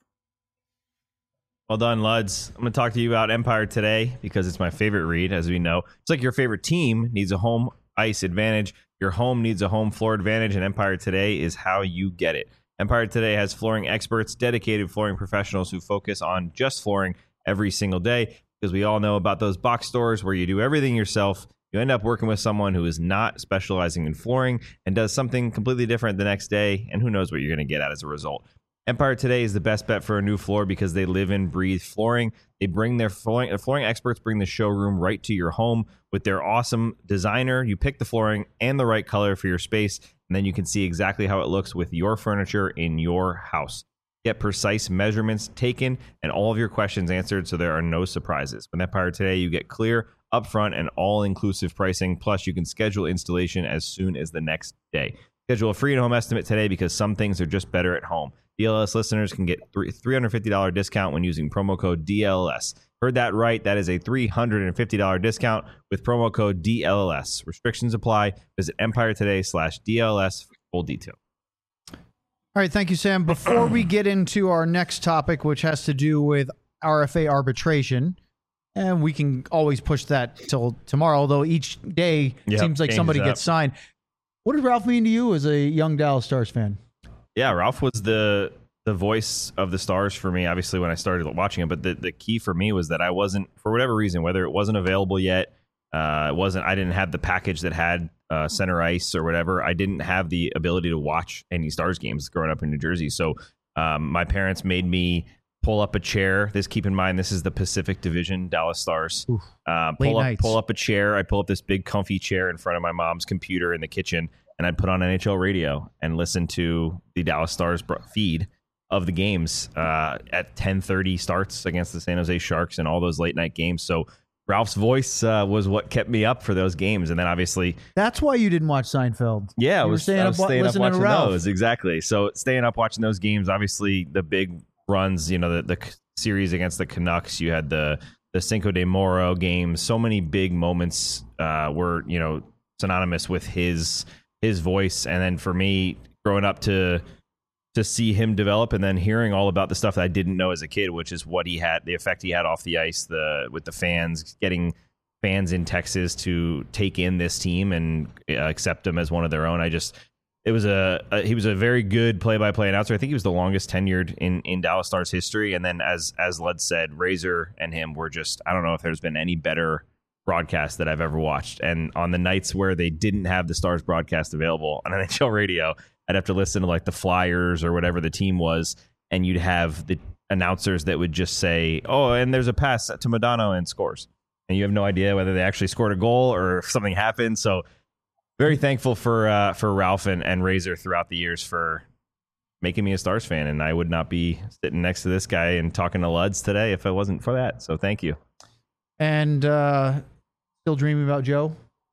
B: Well done, Luds. I'm going to talk to you about Empire Today because it's my favorite read, as we know. It's like your favorite team needs a home ice advantage. Your home needs a home floor advantage, and Empire Today is how you get it. Empire Today has flooring experts, dedicated flooring professionals who focus on just flooring every single day, because we all know about those box stores where you do everything yourself. You end up working with someone who is not specializing in flooring and does something completely different the next day, and who knows what you're going to get at as a result. Empire Today is the best bet for a new floor because they live and breathe flooring. They bring their flooring, their flooring experts bring the showroom right to your home with their awesome designer. You pick the flooring and the right color for your space, and then you can see exactly how it looks with your furniture in your house. Get precise measurements taken and all of your questions answered so there are no surprises. With Empire Today, you get clear, upfront, and all-inclusive pricing. Plus, you can schedule installation as soon as the next day. Schedule a free at-home estimate today because some things are just better at home. D L S listeners can get three hundred fifty dollars discount when using promo code D L S. Heard that right. That is a three hundred fifty dollars discount with promo code D L S. Restrictions apply. Visit Empire Today slash D L S for full detail.
A: All right, thank you, Sam. Before we get into our next topic, which has to do with R F A arbitration, and we can always push that till tomorrow, although each day
B: Yep,
A: seems like
B: changes
A: somebody
B: up.
A: gets signed. What did Ralph mean to you as a young Dallas Stars fan?
B: Yeah, Ralph was the the voice of the Stars for me, obviously, when I started watching it. But the, the key for me was that I wasn't, for whatever reason, whether it wasn't available yet, uh, it wasn't, I didn't have the package that had uh, center ice or whatever. I didn't have the ability to watch any Stars games growing up in New Jersey. So um, my parents made me pull up a chair. This, keep in mind, this is the Pacific Division Dallas Stars.
A: Oof,
B: uh,
A: late
B: pull up,
A: nights.
B: pull up a chair. I pull up this big comfy chair in front of my mom's computer in the kitchen, and I'd put on N H L radio and listen to the Dallas Stars bro- feed of the games uh, at ten thirty starts against the San Jose Sharks and all those late night games. So Ralph's voice uh, was what kept me up for those games. And then obviously,
A: That's why you didn't watch Seinfeld.
B: yeah, I
A: You were
B: was
A: staying
B: I
A: up
B: was
A: wa-
B: staying up
A: listening to
B: watching
A: Ralph.
B: those. Exactly. So staying up watching those games, obviously the big runs, you know, the, the series against the Canucks, you had the, the Cinco de Moro games. So many big moments uh, were, you know, synonymous with his his voice. And then for me, growing up to to see him develop and then hearing all about the stuff that I didn't know as a kid, which is what he had, the effect he had off the ice, the with the fans, getting fans in Texas to take in this team and uh, accept him as one of their own. I just, it was a, a he was a very good play-by-play announcer. I think he was the longest tenured in, in Dallas Stars history. And then as, as Lud said, Razor and him were just, I don't know if there's been any better broadcast that I've ever watched. And on the nights where they didn't have the Stars broadcast available on N H L radio, I'd have to listen to like the Flyers or whatever the team was, and you'd have the announcers that would just say, oh, and there's a pass to Modano and scores. And you have no idea whether they actually scored a goal or if something happened. So very thankful for uh, for Ralph and, and Razor throughout the years for making me a Stars fan. And I would not be sitting next to this guy and talking to Luds today if it wasn't for that. So thank you.
A: And uh, still dreaming about Joe?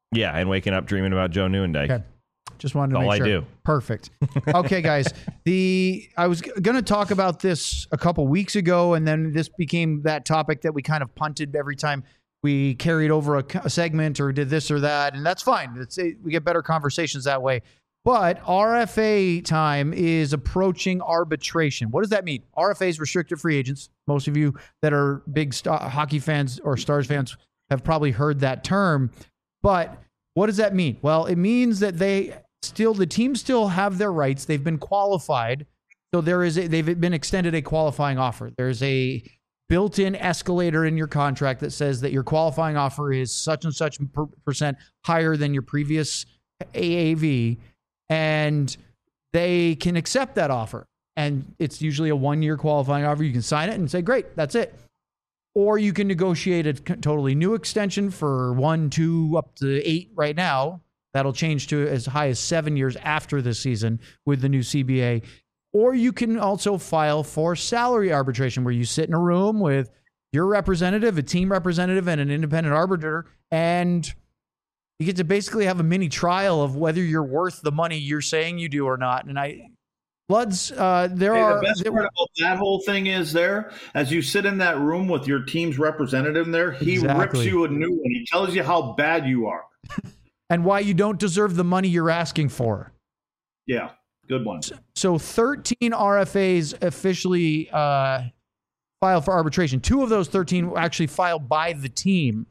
B: Yeah, and waking up dreaming about Joe Nieuwendyk.
A: Okay. Just wanted to
B: That's
A: make
B: all
A: sure.
B: I do.
A: Perfect. Okay, guys. The I was going to talk about this a couple weeks ago, and then this became that topic that we kind of punted every time we carried over a, a segment or did this or that, and that's fine. It's, it, we get better conversations that way. But R F A time is approaching arbitration. What does that mean? R F A is restricted free agents. Most of you that are big star, hockey fans or Stars fans have probably heard that term. But what does that mean? Well, it means that they still, the teams still have their rights. They've been qualified. So there is a, they've been extended a qualifying offer. There's a built-in escalator in your contract that says that your qualifying offer is such and such per percent higher than your previous A A V, and they can accept that offer. And it's usually a one-year qualifying offer. You can sign it and say, great, that's it. Or you can negotiate a totally new extension for one, two, up to eight right now. That'll change to as high as seven years after the season with the new C B A. Or you can also file for salary arbitration, where you sit in a room with your representative, a team representative, and an independent arbiter, and you get to basically have a mini trial of whether you're worth the money you're saying you do or not. And I, Bloods, uh, there
C: Hey,
A: are
C: the best
A: there,
C: part about that whole thing is there, as you sit in that room with your team's representative in there, he
A: Exactly.
C: rips you a new one. He tells you how bad you are.
A: and why you don't deserve the money you're asking for.
C: Yeah, good one.
A: So thirteen R F As officially uh, filed for arbitration. Two of those thirteen were actually filed by the team,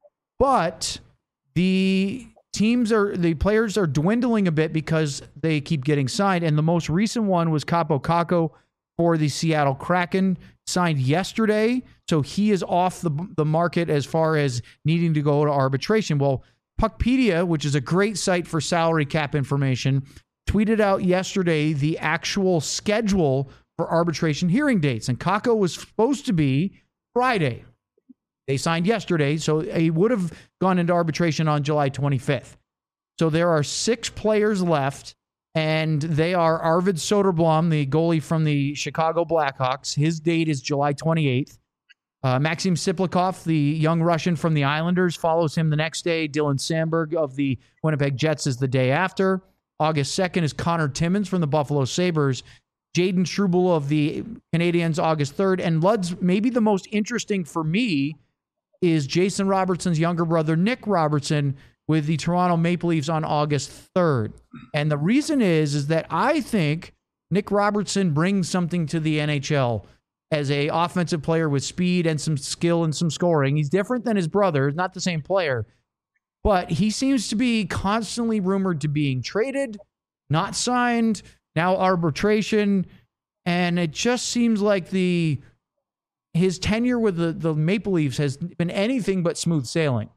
A: but the teams are the players are dwindling a bit because they keep getting signed. And the most recent one was Capo Caco for the Seattle Kraken, signed yesterday. So he is off the the market as far as needing to go to arbitration. Well, Puckpedia, which is a great site for salary cap information, tweeted out yesterday the actual schedule for arbitration hearing dates. And Kako was supposed to be Friday. They signed yesterday, so he would have gone into arbitration on July twenty-fifth. So there are six players left, and they are Arvid Soderblom, the goalie from the Chicago Blackhawks. His date is July twenty-eighth. Uh, Maxim Siplikov, the young Russian from the Islanders, follows him the next day. Dylan Sandberg of the Winnipeg Jets is the day after. August second is Connor Timmins from the Buffalo Sabres. Jaden Struble of the Canadiens, August third. And Lud's, maybe the most interesting for me, is Jason Robertson's younger brother, Nick Robertson, with the Toronto Maple Leafs on August third. And the reason is, is that I think Nick Robertson brings something to the N H L as a offensive player with speed and some skill and some scoring. He's different than his brother, not the same player, but he seems to be constantly rumored to being traded, not signed, now arbitration. And it just seems like the his tenure with the, the Maple Leafs has been anything but smooth sailing.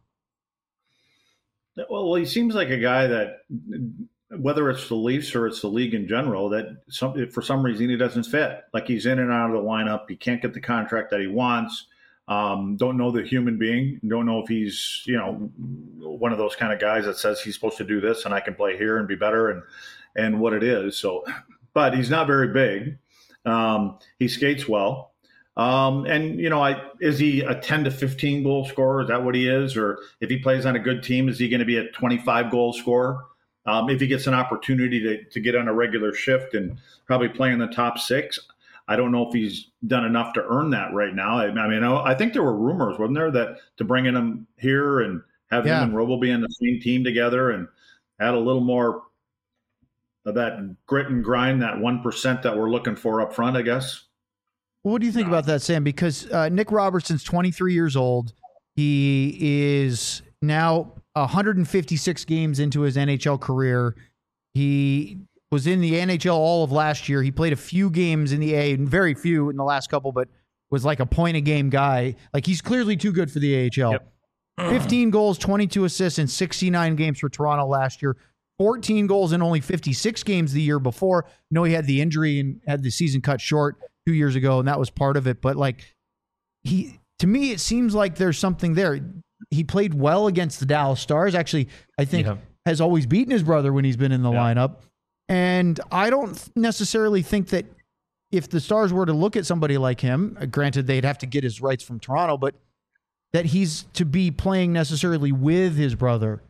C: Well, he seems like a guy that, whether it's the Leafs or it's the league in general, that some, for some reason he doesn't fit. Like, he's in and out of the lineup. He can't get the contract that he wants. Um, don't know the human being. Don't know if he's, you know, one of those kind of guys that says he's supposed to do this and I can play here and be better and, and what it is. So, but he's not very big. Um, he skates well. Um, and, you know, I, is he a ten to fifteen goal scorer? Is that what he is? Or if he plays on a good team, is he going to be a twenty-five goal scorer? Um, if he gets an opportunity to, to get on a regular shift and probably play in the top six, I don't know if he's done enough to earn that right now. I, I mean, I, I think there were rumors, wasn't there, that to bring in him here and have
A: Yeah.
C: him and Robo be on the same team together and add a little more of that grit and grind, that one percent that we're looking for up front, I guess.
A: What do you think about that, Sam? Because uh, Nick Robertson's twenty-three years old. He is now one hundred fifty-six games into his N H L career. He was in the N H L all of last year. He played a few games in the A, and very few in the last couple, but was like a point-a-game guy. Like, he's clearly too good for the A H L.
B: Yep.
A: fifteen goals, twenty-two assists in sixty-nine games for Toronto last year. fourteen goals in only fifty-six games the year before. No, he had the injury and had the season cut short two years ago, and that was part of it. But like, he, to me, it seems like there's something there. He played well against the Dallas Stars. Actually, I think
B: Yeah.
A: has always beaten his brother when he's been in the
B: Yeah.
A: lineup. And I don't necessarily think that if the Stars were to look at somebody like him, uh, granted they'd have to get his rights from Toronto, but that he's to be playing necessarily with his brother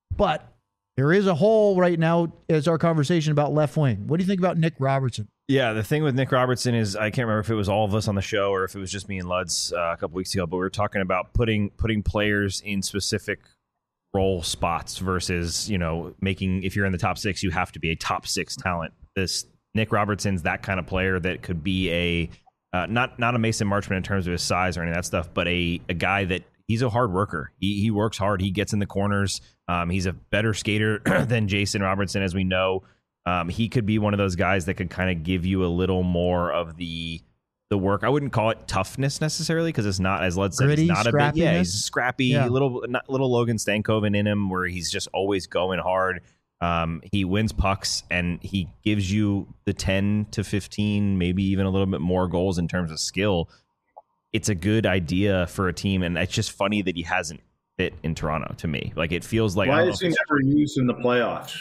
A: But there is a hole right now as our conversation about left wing. What do you think about Nick Robertson?
B: Yeah, the thing with Nick Robertson is I can't remember if it was all of us on the show or if it was just me and Luds uh, a couple weeks ago, but we were talking about putting putting players in specific role spots versus, you know, making, if you're in the top six, you have to be a top six talent. This Nick Robertson's that kind of player that could be a uh, not not a Mason Marchment in terms of his size or any of that stuff, but a a guy that he's a hard worker. He he works hard. He gets in the corners. Um, he's a better skater than Jason Robertson, as we know. Um, he could be one of those guys that could kind of give you a little more of the the work. I wouldn't call it toughness necessarily because it's not, as Lud said,
A: Gritty,
B: he's not a big, yeah, he's
A: scrappiness.
B: scrappy,
A: Yeah.
B: little not, little Logan Stankoven in him where he's just always going hard. Um, he wins pucks and he gives you the ten to fifteen, maybe even a little bit more goals in terms of skill. It's a good idea for a team, and it's just funny that he hasn't fit in Toronto to me. Like it feels like I
C: Why
B: don't know
C: is
B: if
C: he
B: it's-
C: never used in the playoffs?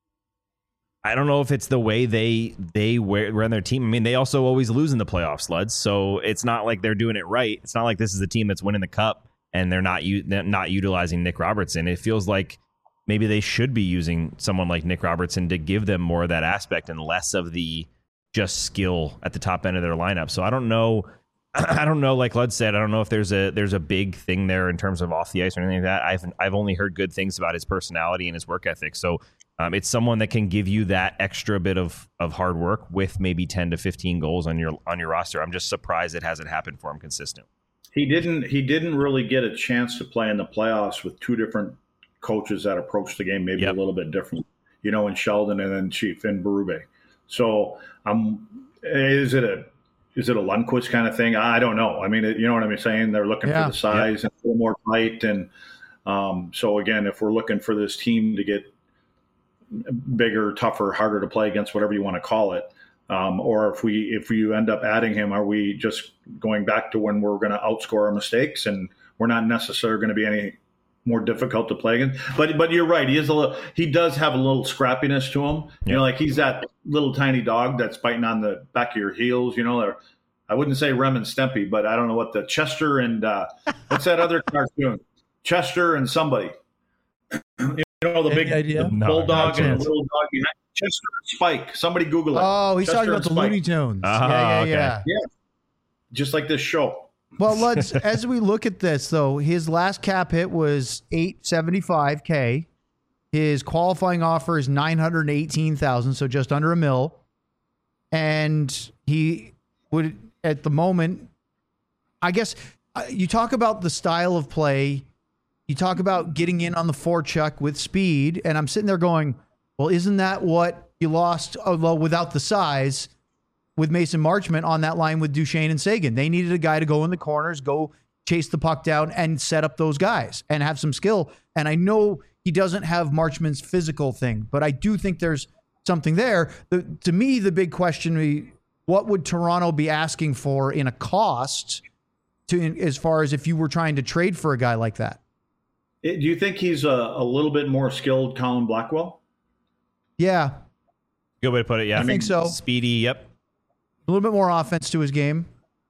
B: I don't know if it's the way they they wear, run their team. I mean, they also always lose in the playoffs, Luds. So it's not like they're doing it right. It's not like this is a team that's winning the cup and they're not u- they're not utilizing Nick Robertson. It feels like maybe they should be using someone like Nick Robertson to give them more of that aspect and less of the just skill at the top end of their lineup. So I don't know. I don't know. Like Lud said, I don't know if there's a there's a big thing there in terms of off the ice or anything like that. I've I've only heard good things about his personality and his work ethic. So. Um, it's someone that can give you that extra bit of of hard work with maybe ten to fifteen goals on your on your roster. I'm just surprised it hasn't happened for him consistently.
C: He didn't. He didn't really get a chance to play in the playoffs with two different coaches that approached the game maybe
B: Yep.
C: a little bit different. You know, in Sheldon and then Chief in Berube. So, um, is it a is it a Lundqvist kind of thing? I don't know. I mean, you know what I'm saying? They're looking
A: Yeah.
C: for the size and a little more height, and um, so again, if we're looking for this team to get bigger, tougher, harder to play against, whatever you want to call it. Um, or if we if you end up adding him, are we just going back to when we're going to outscore our mistakes and we're not necessarily going to be any more difficult to play against? But but you're right. He is a little, he does have a little scrappiness to him. You
B: Yeah.
C: know, like he's that little tiny dog that's biting on the back of your heels. You know, or I wouldn't say Rem and Stimpy, but I don't know what the Chester and uh, what's that other cartoon? Chester and somebody. You know, the
A: Any
C: big
A: idea?
C: the
B: No,
C: bulldog
A: not a
C: and
A: chance.
C: the little dog behind. Chester and Spike. Somebody Google it.
A: Oh, he's
C: Chester
A: talking about
C: and
A: the
C: Spike.
A: Looney Tunes.
B: Ah,
A: yeah, yeah,
B: okay.
A: yeah.
C: Just like this show.
A: Well, let's as we look at this though, his last cap hit was eight seventy-five K. His qualifying offer is nine hundred eighteen thousand, so just under a mil. And he would at the moment, I guess uh, you talk about the style of play, you talk about getting in on the forecheck with speed, and I'm sitting there going, well, isn't that what you lost, although without the size, with Mason Marchment on that line with Duchesne and Sagan? They needed a guy to go in the corners, go chase the puck down and set up those guys and have some skill. And I know he doesn't have Marchment's physical thing, but I do think there's something there. The, to me, the big question, we- what would Toronto be asking for in a cost to, as far as if you were trying to trade for a guy like that?
C: It- do you think he's a, a little bit more skilled Colin Blackwell?
A: Yeah,
B: Good way to put it. Yeah,
A: I think so.
B: Speedy. Yep.
A: a little bit more offense to his game.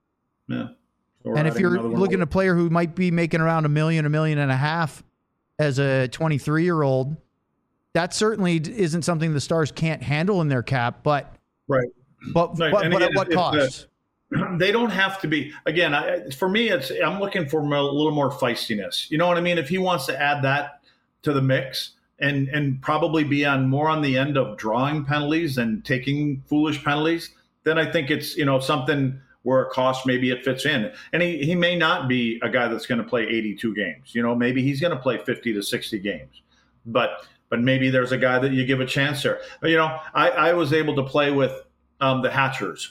C: Yeah. So we're
A: And if
C: adding
A: you're
C: another one.
A: looking at a player who might be making around a million, a million and a half as a twenty-three year old, that certainly isn't something the Stars can't handle in their cap. But
C: Right.
A: but
C: Right,
A: but,
C: and
A: but
C: again,
A: at what
C: if- if
A: cost?
C: they don't have to be, again, I, for me, it's I'm looking for a little more feistiness. You know what I mean? If he wants to add that to the mix and and probably be on more on the end of drawing penalties and taking foolish penalties, then I think it's, you know, something where a cost, maybe it fits in. And he, he may not be a guy that's going to play eighty-two games. You know, maybe he's going to play fifty to sixty games. But but maybe there's a guy that you give a chance there. You know, I, I was able to play with um, the Hatchers.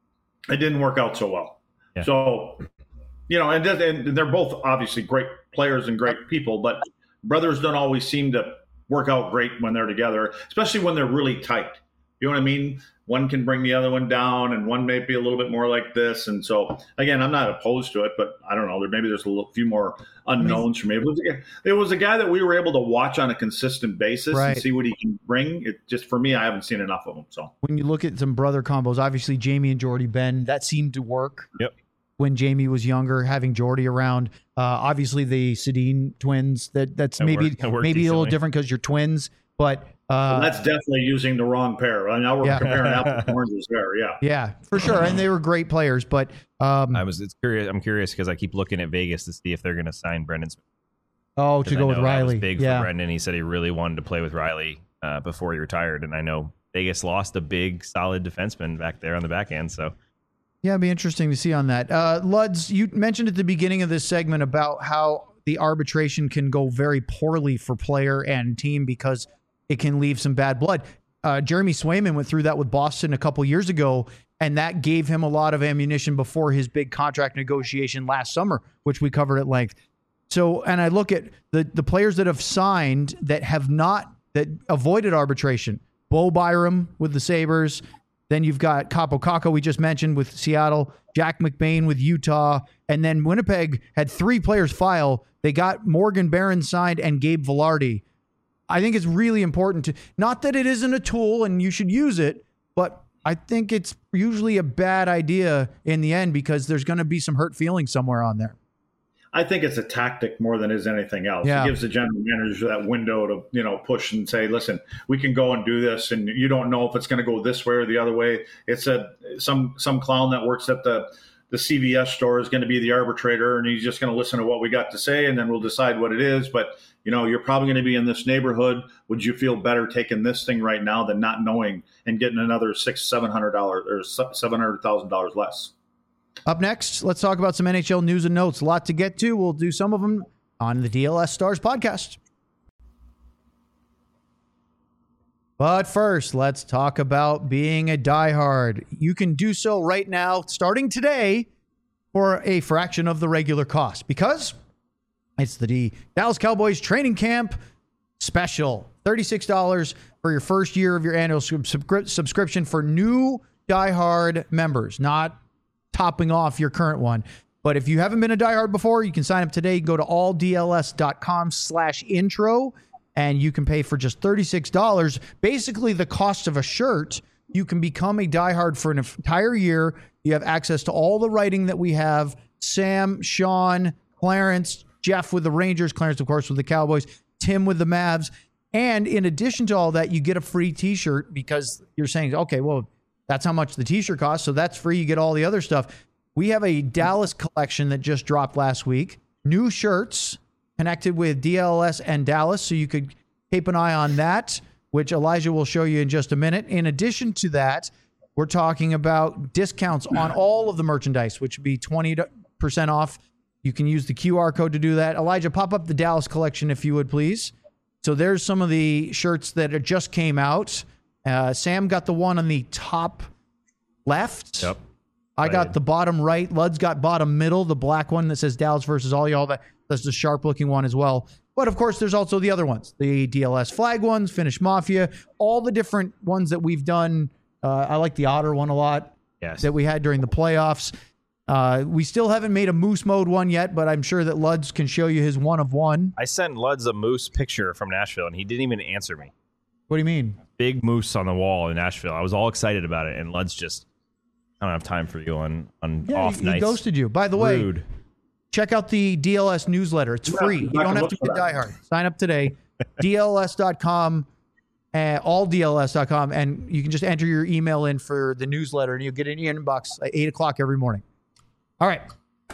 C: It didn't work out so well.
B: Yeah.
C: So, you know, and, and they're both obviously great players and great people, but brothers don't always seem to work out great when they're together, especially when they're really tight. You know what I mean? One can bring the other one down, and one may be a little bit more like this. And so, again, I'm not opposed to it, but I don't know. There maybe there's a little, few more unknowns for me. It was, a, it was a guy that we were able to watch on a consistent basis
A: Right.
C: and see what he can bring. It just for me, I haven't seen enough of him. So
A: When you look at some brother combos, obviously Jamie and Jordy Ben, that seemed to work.
B: Yep.
A: when Jamie was younger, having Jordy around. Uh, obviously, the Sedin twins. That that's
B: That
A: maybe
B: worked- that worked
A: maybe a little
B: decently.
A: different because you're twins, but uh,
C: Well, that's definitely using the wrong pair. I mean, now we're
A: Yeah.
C: comparing apples and oranges there. Yeah.
A: yeah, for sure. And they were great players, but um,
B: I was. It's curious. I'm curious because I keep looking at Vegas to see if they're going to sign Brendan Smith.
A: oh,
B: 'Cause
A: to
B: I
A: go with
B: know that was
A: Riley,
B: big
A: yeah.
B: for Brendan. He said he really wanted to play with Riley uh, before he retired, and I know Vegas lost a big, solid defenseman back there on the back end. So
A: Yeah, it'd be interesting to see on that. Uh, Luds, you mentioned at the beginning of this segment about how the arbitration can go very poorly for player and team because it can leave some bad blood. Uh, Jeremy Swayman went through that with Boston a couple years ago, and that gave him a lot of ammunition before his big contract negotiation last summer, which we covered at length. So, and I look at the the players that have signed that have not, that avoided arbitration. Bo Byram with the Sabres. Then you've got Capo Caco, we just mentioned, with Seattle. Jack McBain with Utah. And then Winnipeg had three players file. They got Morgan Barron signed and Gabe Velarde. I think it's really important to, not that it isn't a tool and you should use it, but I think it's usually a bad idea in the end because there's going to be some hurt feelings somewhere on there.
C: I think it's a tactic more than it is anything else.
A: Yeah.
C: It gives the general manager that window to, you know, push and say, listen, we can go and do this, and you don't know if it's going to go this way or the other way. It's a some some clown that works at the the C V S store is going to be the arbitrator, and he's just going to listen to what we got to say, and then we'll decide what it is. But, you know, you're probably going to be in this neighborhood. Would you feel better taking this thing right now than not knowing and getting another six, seven hundred dollars or seven hundred thousand dollars less?
A: Up next, let's talk about some N H L news and notes. A lot to get to. We'll do some of them on the D L S Stars podcast. But first, let's talk about being a diehard. You can do so right now, starting today, for a fraction of the regular cost because it's the D- Dallas Cowboys training camp special. thirty-six dollars for your first year of your annual subscri- subscription for new diehard members, not topping off your current one. But if you haven't been a diehard before, you can sign up today. Go to alldls.com slash intro, and you can pay for just thirty-six dollars. Basically, the cost of a shirt. You can become a diehard for an entire year. You have access to all the writing that we have. Sam, Sean, Clarence, Jeff with the Rangers, Clarence, of course, with the Cowboys, Tim with the Mavs. And in addition to all that, you get a free t-shirt because you're saying, okay, well, that's how much the t-shirt costs. So that's free. You get all the other stuff. We have a Dallas collection that just dropped last week. New shirts connected with D L S and Dallas. So you could keep an eye on that, which Elijah will show you in just a minute. In addition to that, we're talking about discounts on all of the merchandise, which would be twenty percent off. You can use the Q R code to do that. Elijah, pop up the Dallas collection if you would, please. So there's some of the shirts that just came out. Uh, Sam got the one on the top left.
B: Yep.
A: I got the bottom right. Lud's got bottom middle, the black one that says Dallas versus all y'all. That, that's the sharp looking one as well. But of course, there's also the other ones, the D L S flag ones, Finnish Mafia, all the different ones that we've done. Uh, I like the Otter one a lot.
B: Yes.
A: That we had during the playoffs. Uh, we still haven't made a Moose Mode one yet, but I'm sure that Luds can show you his one of one.
B: I sent Luds a moose picture from Nashville, and he didn't even answer me.
A: What do you mean?
B: Big moose on the wall in Nashville. I was all excited about it, and Luds just, I don't have time for you on, on
A: Yeah,
B: off
A: he,
B: nights.
A: he ghosted you. By the way,
B: Rude.
A: check out the D L S newsletter. It's free. You don't have to be a diehard. Sign up today. D L S dot com, uh, all D L S dot com, and you can just enter your email in for the newsletter, and you'll get it in your inbox at eight o'clock every morning. All right.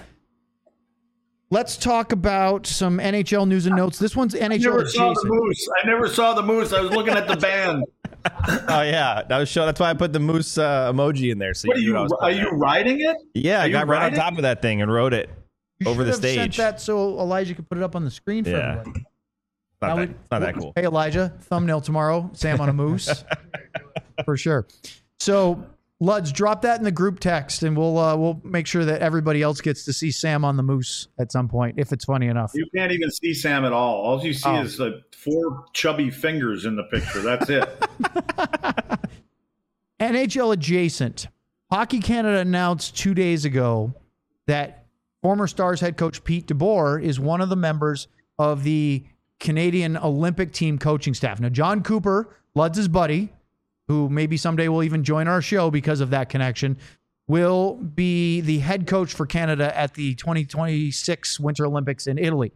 A: Let's talk about some N H L news and notes. This one's N H L
C: I never saw the
A: adjacent.
C: moose. I never saw the moose. I was looking at the band.
B: Oh yeah, that was show. That's why I put the moose uh, emoji in there. So
C: What are
B: you,
C: you?
B: knew I was
C: Are
B: putting
C: you
B: it.
C: riding it?
B: Yeah,
C: Are
B: I
C: you
B: got right on
C: riding?
B: top of that thing and wrote it
A: You
B: over
A: should
B: the
A: have sent
B: stage.
A: that so Elijah could put it up on the screen for
B: Yeah.
A: everybody.
B: Not,
A: Now
B: that,
A: we-
B: not that cool.
A: Hey, Elijah, thumbnail tomorrow. Sam on a moose. For sure. So, Luds, drop that in the group text, and we'll uh, we'll make sure that everybody else gets to see Sam on the moose at some point, if it's funny enough.
C: You can't even see Sam at all. All you see
A: Oh.
C: is the four chubby fingers in the picture. That's it.
A: N H L adjacent. Hockey Canada announced two days ago that former Stars head coach Pete DeBoer is one of the members of the Canadian Olympic team coaching staff. Now, John Cooper, Luds' buddy, who maybe someday will even join our show because of that connection, will be the head coach for Canada at the twenty twenty-six Winter Olympics in Italy.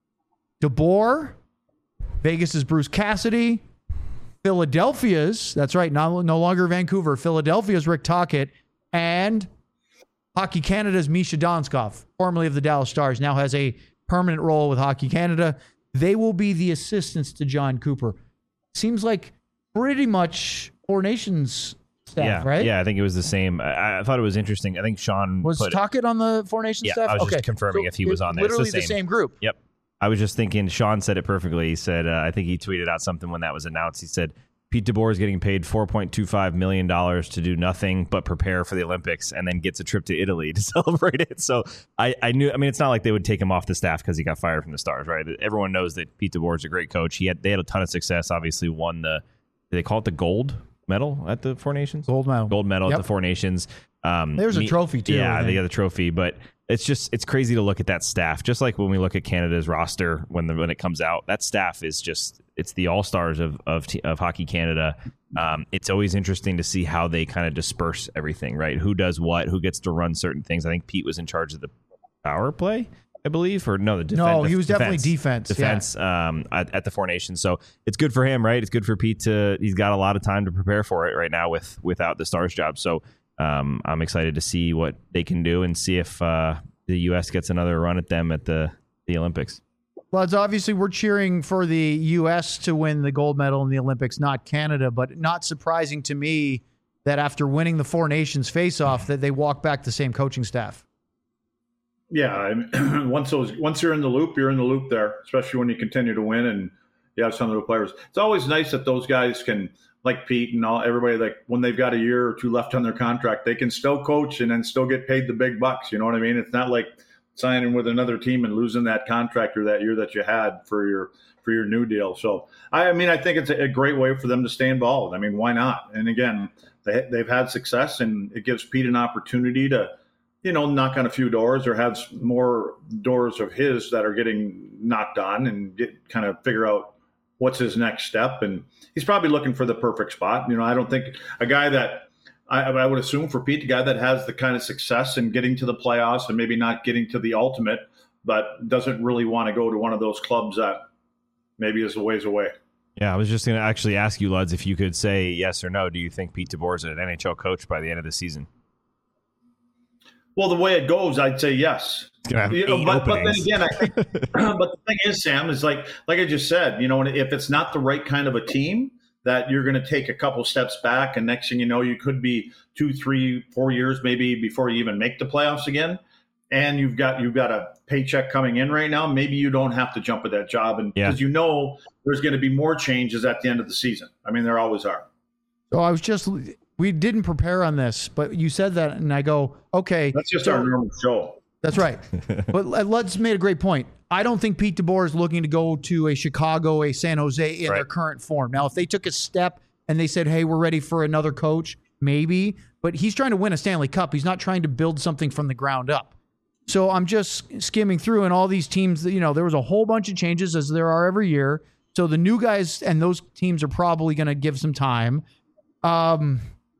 A: DeBoer, Vegas's Bruce Cassidy, Philadelphia's, that's right, no, no longer Vancouver, Philadelphia's Rick Tocchet, and Hockey Canada's Misha Donskov, formerly of the Dallas Stars, now has a permanent role with Hockey Canada. They will be the assistants to John Cooper. Seems like pretty much Four Nations staff,
B: yeah,
A: right?
B: Yeah, I think it was the same. I, I thought it was interesting. I think Sean
A: was
B: put,
A: Tocchet on the Four Nations
B: yeah,
A: staff?
B: I was
A: okay.
B: just confirming
A: So
B: if he was on there. It's
A: Literally
B: the
A: the
B: same.
A: same group.
B: Yep. I was just thinking, Sean said it perfectly. He said, uh, I think he tweeted out something when that was announced. He said, Pete DeBoer is getting paid four point two five million dollars to do nothing but prepare for the Olympics and then gets a trip to Italy to celebrate it. So I, I knew, I mean, it's not like they would take him off the staff because he got fired from the Stars, right? Everyone knows that Pete DeBoer is a great coach. He had, they had a ton of success, obviously won the, do they call it the gold medal at the Four Nations?
A: Gold medal.
B: Gold medal
A: Yep.
B: at the Four Nations. Um,
A: There's a
B: me-
A: trophy, too, I
B: Yeah,
A: think.
B: they got the trophy, but it's just, it's crazy to look at that staff. Just like when we look at Canada's roster, when the, when it comes out, that staff is just, it's the all-stars of, of, t- of Hockey Canada. Um, it's always interesting to see how they kind of disperse everything, right? Who does what, who gets to run certain things. I think Pete was in charge of the power play, I believe, or no, the defense.
A: No, he was definitely defense.
B: Defense um, at, at the Four Nations. So it's good for him, right? It's good for Pete to, he's got a lot of time to prepare for it right now with without the Stars job. So um, I'm excited to see what they can do and see if uh, the U S gets another run at them at the, the Olympics.
A: Well, it's obviously we're cheering for the U S to win the gold medal in the Olympics, not Canada, but not surprising to me that after winning the Four Nations face-off that they walk back the same coaching staff.
C: Yeah, I mean, once those once you're in the loop, you're in the loop there, especially when you continue to win and you have some of the players. It's always nice that those guys can, like Pete and all everybody, like when they've got a year or two left on their contract, they can still coach and then still get paid the big bucks. You know what I mean? It's not like signing with another team and losing that contract or that year that you had for your for your new deal. So I, I mean, I think it's a, a great way for them to stay involved. I mean, why not? And again, they they've had success, and it gives Pete an opportunity to, you know, knock on a few doors or have more doors of his that are getting knocked on and get kind of figure out what's his next step. And he's probably looking for the perfect spot. You know, I don't think a guy that I, I would assume for Pete, a guy that has the kind of success in getting to the playoffs and maybe not getting to the ultimate, but doesn't really want to go to one of those clubs that maybe is a ways away.
B: Yeah, I was just going to actually ask you, Luds, if you could say yes or no. Do you think Pete DeBoer is an N H L coach by the end of the season?
C: Well, the way it goes, I'd say yes.
B: Have
C: You know,
B: eight
C: but, but then
B: openings.
C: again, I think, but the thing is, Sam, is like like I just said, you know, if it's not the right kind of a team, that you're going to take a couple steps back, and next thing you know, you could be two, three, four years maybe before you even make the playoffs again. And you've got you've got a paycheck coming in right now. Maybe you don't have to jump at that job, and
B: Yeah.
C: because you know there's going to be more changes at the end of the season. I mean, there always are.
A: So I was just, we didn't prepare on this, but you said that, and I go, okay.
C: That's just
A: so-
C: our normal show.
A: That's right. But Lud's made a great point. I don't think Pete DeBoer is looking to go to a Chicago, a San Jose in
B: Right.
A: their current form. Now, if they took a step and they said, hey, we're ready for another coach, maybe. But he's trying to win a Stanley Cup. He's not trying to build something from the ground up. So I'm just skimming through, and all these teams, you know, there was a whole bunch of changes as there are every year. So the new guys and those teams are probably going to give some time. Um,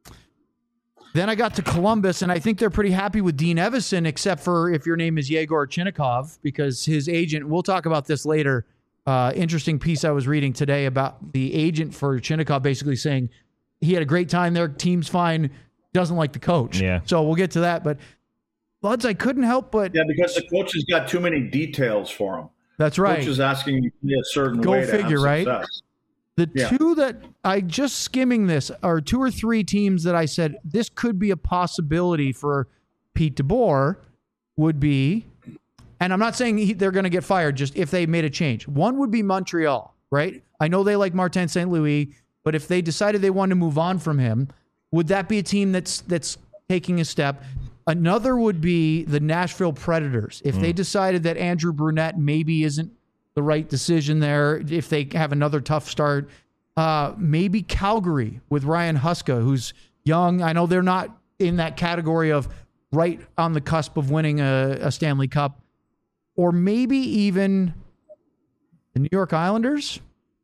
A: then I got to Columbus, and I think they're pretty happy with Dean Evison, except for if your name is Yegor Chinnikov, because his agent, we'll talk about this later. Uh, interesting piece I was reading today about the agent for Chinnikov basically saying he had a great time there, team's fine, doesn't like the coach.
B: Yeah.
A: So we'll get to that. But, Buds, I couldn't help but.
C: Yeah, because the coach has got too many details for him.
A: That's right.
C: Coach is asking you to be a certain
A: Go
C: way to
A: figure,
C: have
A: right?
C: success.
A: The
C: Yeah.
A: two that I just skimming this are two or three teams that I said this could be a possibility for Pete DeBoer would be, and I'm not saying he, they're going to get fired just if they made a change. One would be Montreal, right? I know they like Martin Saint Louis, but if they decided they wanted to move on from him, would that be a team that's that's taking a step? Another would be the Nashville Predators. If they decided that Andrew Brunette maybe isn't the right decision there, if they have another tough start, uh, maybe Calgary with Ryan Huska, who's young. I know they're not in that category of right on the cusp of winning a, a Stanley Cup, or maybe even the New York Islanders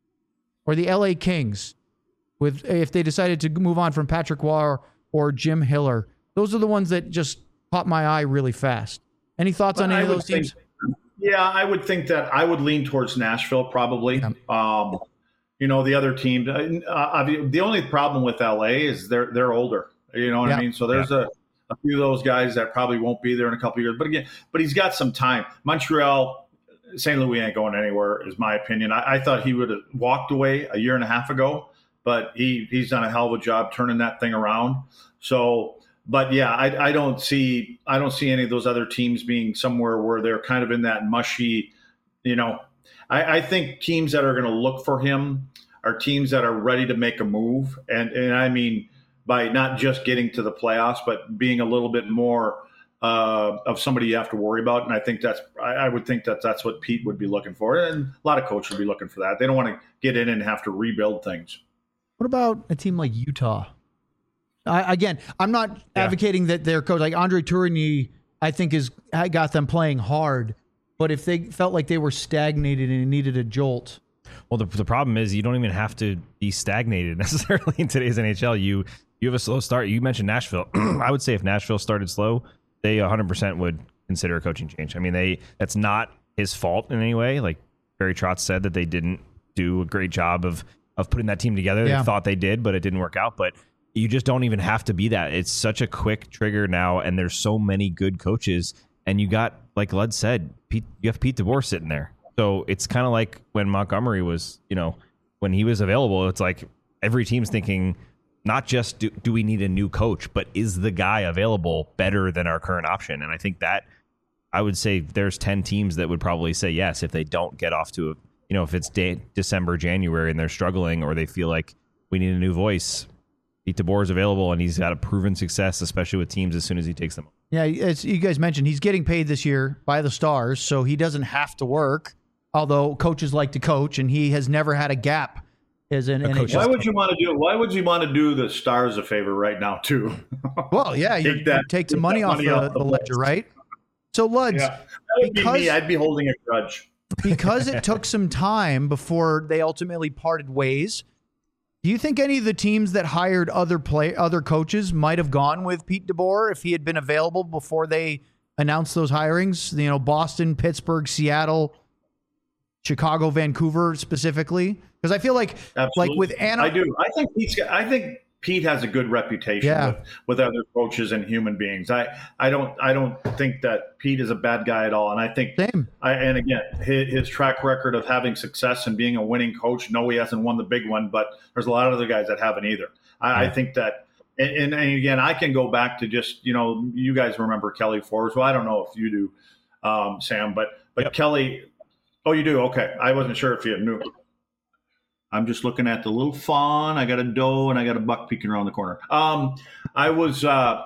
A: or the L A Kings, with if they decided to move on from Patrick Waugh or Jim Hiller. Those are the ones that just caught my eye really fast. Any thoughts on
C: But
A: any
C: I
A: of those
C: would
A: teams?
C: think- yeah, I would think that I would lean towards Nashville probably.
A: Yeah.
C: Um, you know, the other team. Uh, uh, the only problem with L A is they're they're older. You know what
A: Yeah.
C: I mean? So there's a, a few of those guys that probably won't be there in a couple of years. But again, but he's got some time. Montreal, Saint Louis ain't going anywhere, is my opinion. I, I thought he would have walked away a year and a half ago, but he he's done a hell of a job turning that thing around. So. But yeah, I, I don't see I don't see any of those other teams being somewhere where they're kind of in that mushy, you know. I, I think teams that are going to look for him are teams that are ready to make a move, and and I mean by not just getting to the playoffs, but being a little bit more uh, of somebody you have to worry about. And I think that's I, I would think that that's what Pete would be looking for, and a lot of coaches would be looking for that. They don't want to get in and have to rebuild things.
A: What about a team like Utah? I, again, I'm not
B: Yeah.
A: advocating that their coach, like Andre Tourigny, I think is got them playing hard. But if they felt like they were stagnated and needed a jolt,
B: Well, the, the problem is you don't even have to be stagnated necessarily in today's N H L. You you have a slow start. You mentioned Nashville. I would say if Nashville started slow, they one hundred percent would consider a coaching change. I mean, they that's not his fault in any way. Like Barry Trotz said that they didn't do a great job of of putting that team together.
A: Yeah.
B: They thought they did, but it didn't work out. But you just don't even have to be that. It's such a quick trigger now, and there's so many good coaches. And you got, like Lud said, Pete, you have Pete DeBoer sitting there. So it's kind of like when Montgomery was, you know, when he was available, it's like every team's thinking, not just do, do we need a new coach, but is the guy available better than our current option? And I think that I would say there's ten teams that would probably say yes if they don't get off to a, you know, if it's de- December, January and they're struggling or they feel like we need a new voice. Pete DeBoer is available and he's got a proven success, especially with teams as soon as he takes them.
A: yeah, as you guys mentioned, he's getting paid this year by the Stars, so he doesn't have to work. Although coaches like to coach, and he has never had a gap as an N H L.
C: Why would you want to do? Why would you want to do the Stars a favor right now too?
A: Well, yeah, you
C: Take that-
A: you take some
C: take
A: money
C: that
A: off
C: money
A: the,
C: off the
A: the ledger,
C: books.
A: right? So, Luds,
C: Yeah, that would be
A: Because-
C: me. I'd be holding a grudge.
A: because it took some time before they ultimately parted ways, do you think any of the teams that hired other play other coaches might have gone with Pete DeBoer if he had been available before they announced those hirings? You know, Boston, Pittsburgh, Seattle, Chicago, Vancouver specifically? Because I feel like,
C: Absolutely.
A: like with Anna,
C: I do. I think Pete's. got- I think Pete has a good reputation
A: Yeah.
C: with, with other coaches and human beings. I, I don't. I don't think that Pete is a bad guy at all. And I think.
A: same.
C: I, and again, his, his track record of having success and being a winning coach. No, he hasn't won the big one, but there's a lot of other guys that haven't either. I, I think that. And, and, and again, I can go back to just, you know, you guys remember Kelly Forbes. Well, I don't know if you do, um, Sam, but but
B: Yep.
C: Kelly. Oh, you do? Okay. I wasn't sure if you knew. I'm just looking at the little fawn. I got a doe and I got a buck peeking around the corner. Um, I was uh,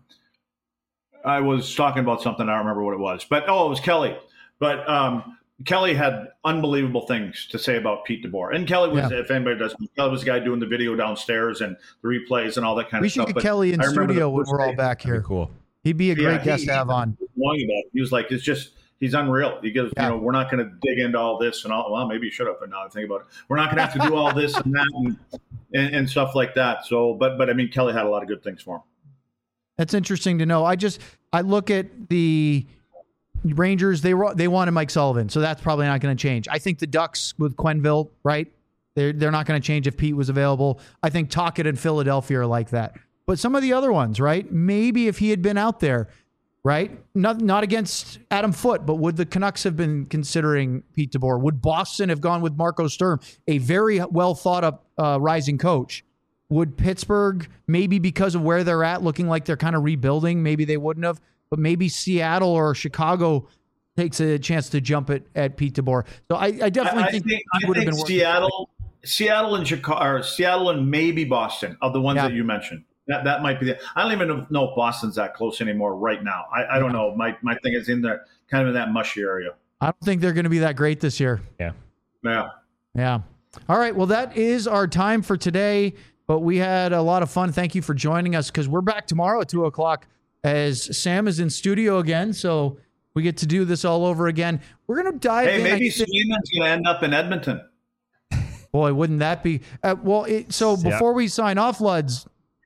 C: I was talking about something. I don't remember what it was, but oh, it was Kelly. But um, Kelly had unbelievable things to say about Pete DeBoer. And Kelly was,
A: Yeah.
C: if anybody doesn't, Kelly was the guy doing the video downstairs and the replays and all that kind
A: We
C: of
A: should
C: stuff.
A: get
C: But
A: Kelly in
C: I remember
A: studio
C: the
A: when
C: first
A: we're all
C: day-
A: back here.
B: Cool.
A: He'd be a great
C: Yeah,
A: guest
C: he-
A: to have on.
C: Long about it. He was like, it's just, he's unreal. He goes,
A: Yeah.
C: you know, we're not going to dig into all this and all. Well, maybe you should have, but now I think about it. We're not going to have to do all this and that and, and, and stuff like that. So, but, but I mean, Kelly had a lot of good things for him.
A: That's interesting to know. I just I look at the Rangers. They were, they wanted Mike Sullivan, so that's probably not going to change. I think the Ducks with Quenneville, right? They're they're not going to change if Pete was available. I think Tocchet and Philadelphia are like that. But some of the other ones, right? Maybe if he had been out there, right? Not not against Adam Foote, but would the Canucks have been considering Pete DeBoer? Would Boston have gone with Marco Sturm, a very well thought up uh, rising coach? Would Pittsburgh, maybe because of where they're at, looking like they're kind of rebuilding, maybe they wouldn't have, but maybe Seattle or Chicago takes a chance to jump at, at Pete DeBoer. So I, I definitely
C: I, I
A: think,
C: think,
A: he
C: I
A: would have
C: think
A: been worth-
C: Seattle, Seattle and Chicago, or Seattle and maybe Boston of the ones
A: Yeah.
C: that you mentioned. That that might be the. I don't even know if Boston's that close anymore right now. I, I don't know. My my thing is in there, kind of in that mushy area.
A: I don't think they're going to be that great this year.
B: Yeah.
C: Yeah.
A: Yeah. All right. Well, that is our time for today, but we had a lot of fun. Thank you for joining us because we're back tomorrow at two o'clock as Sam is in studio again. So we get to do this all over again. We're going to dive
C: Hey,
A: in.
C: maybe
A: I think-
C: Swayman's going to end up in Edmonton.
A: Boy, wouldn't that be? Uh, well, it, so
B: Yeah.
A: before we sign off, Luds,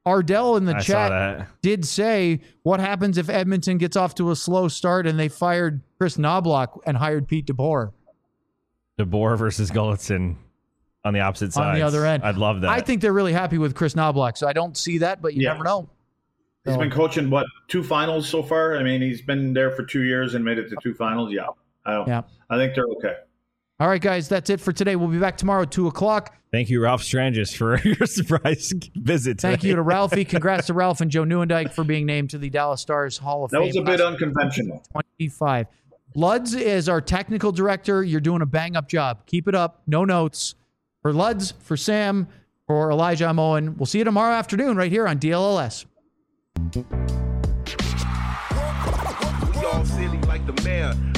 A: Ardell in the
B: I saw
A: chat
B: that.
A: did say, what happens if Edmonton gets off to a slow start and they fired Chris Knobloch and hired Pete DeBoer?
B: DeBoer versus Gulletson on the opposite side.
A: On the other end.
B: I'd love that.
A: I think they're really happy with Chris Knobloch, so I don't see that, but you
C: Yeah.
A: never know.
C: He's
A: So-
C: been coaching, what, two finals so far? I mean, he's been there for two years and made it to two finals. Yeah. I don't,
A: Yeah.
C: I think they're okay.
A: All right, guys, that's it for today. We'll be back tomorrow at two o'clock.
B: Thank you, Ralph Strangis, for your surprise visit today.
A: Thank you to Ralphie. Congrats to Ralph and Joe Newendike for being named to the Dallas Stars Hall of
C: That
A: Fame.
C: was a bit
A: class of
C: unconventional.
A: twenty-five. Luds is our technical director. You're doing a bang-up job. Keep it up. No notes. For Luds, for Sam, for Elijah, I'm Owen. We'll see you tomorrow afternoon right here on D L L S.
H: We all silly like the mayor.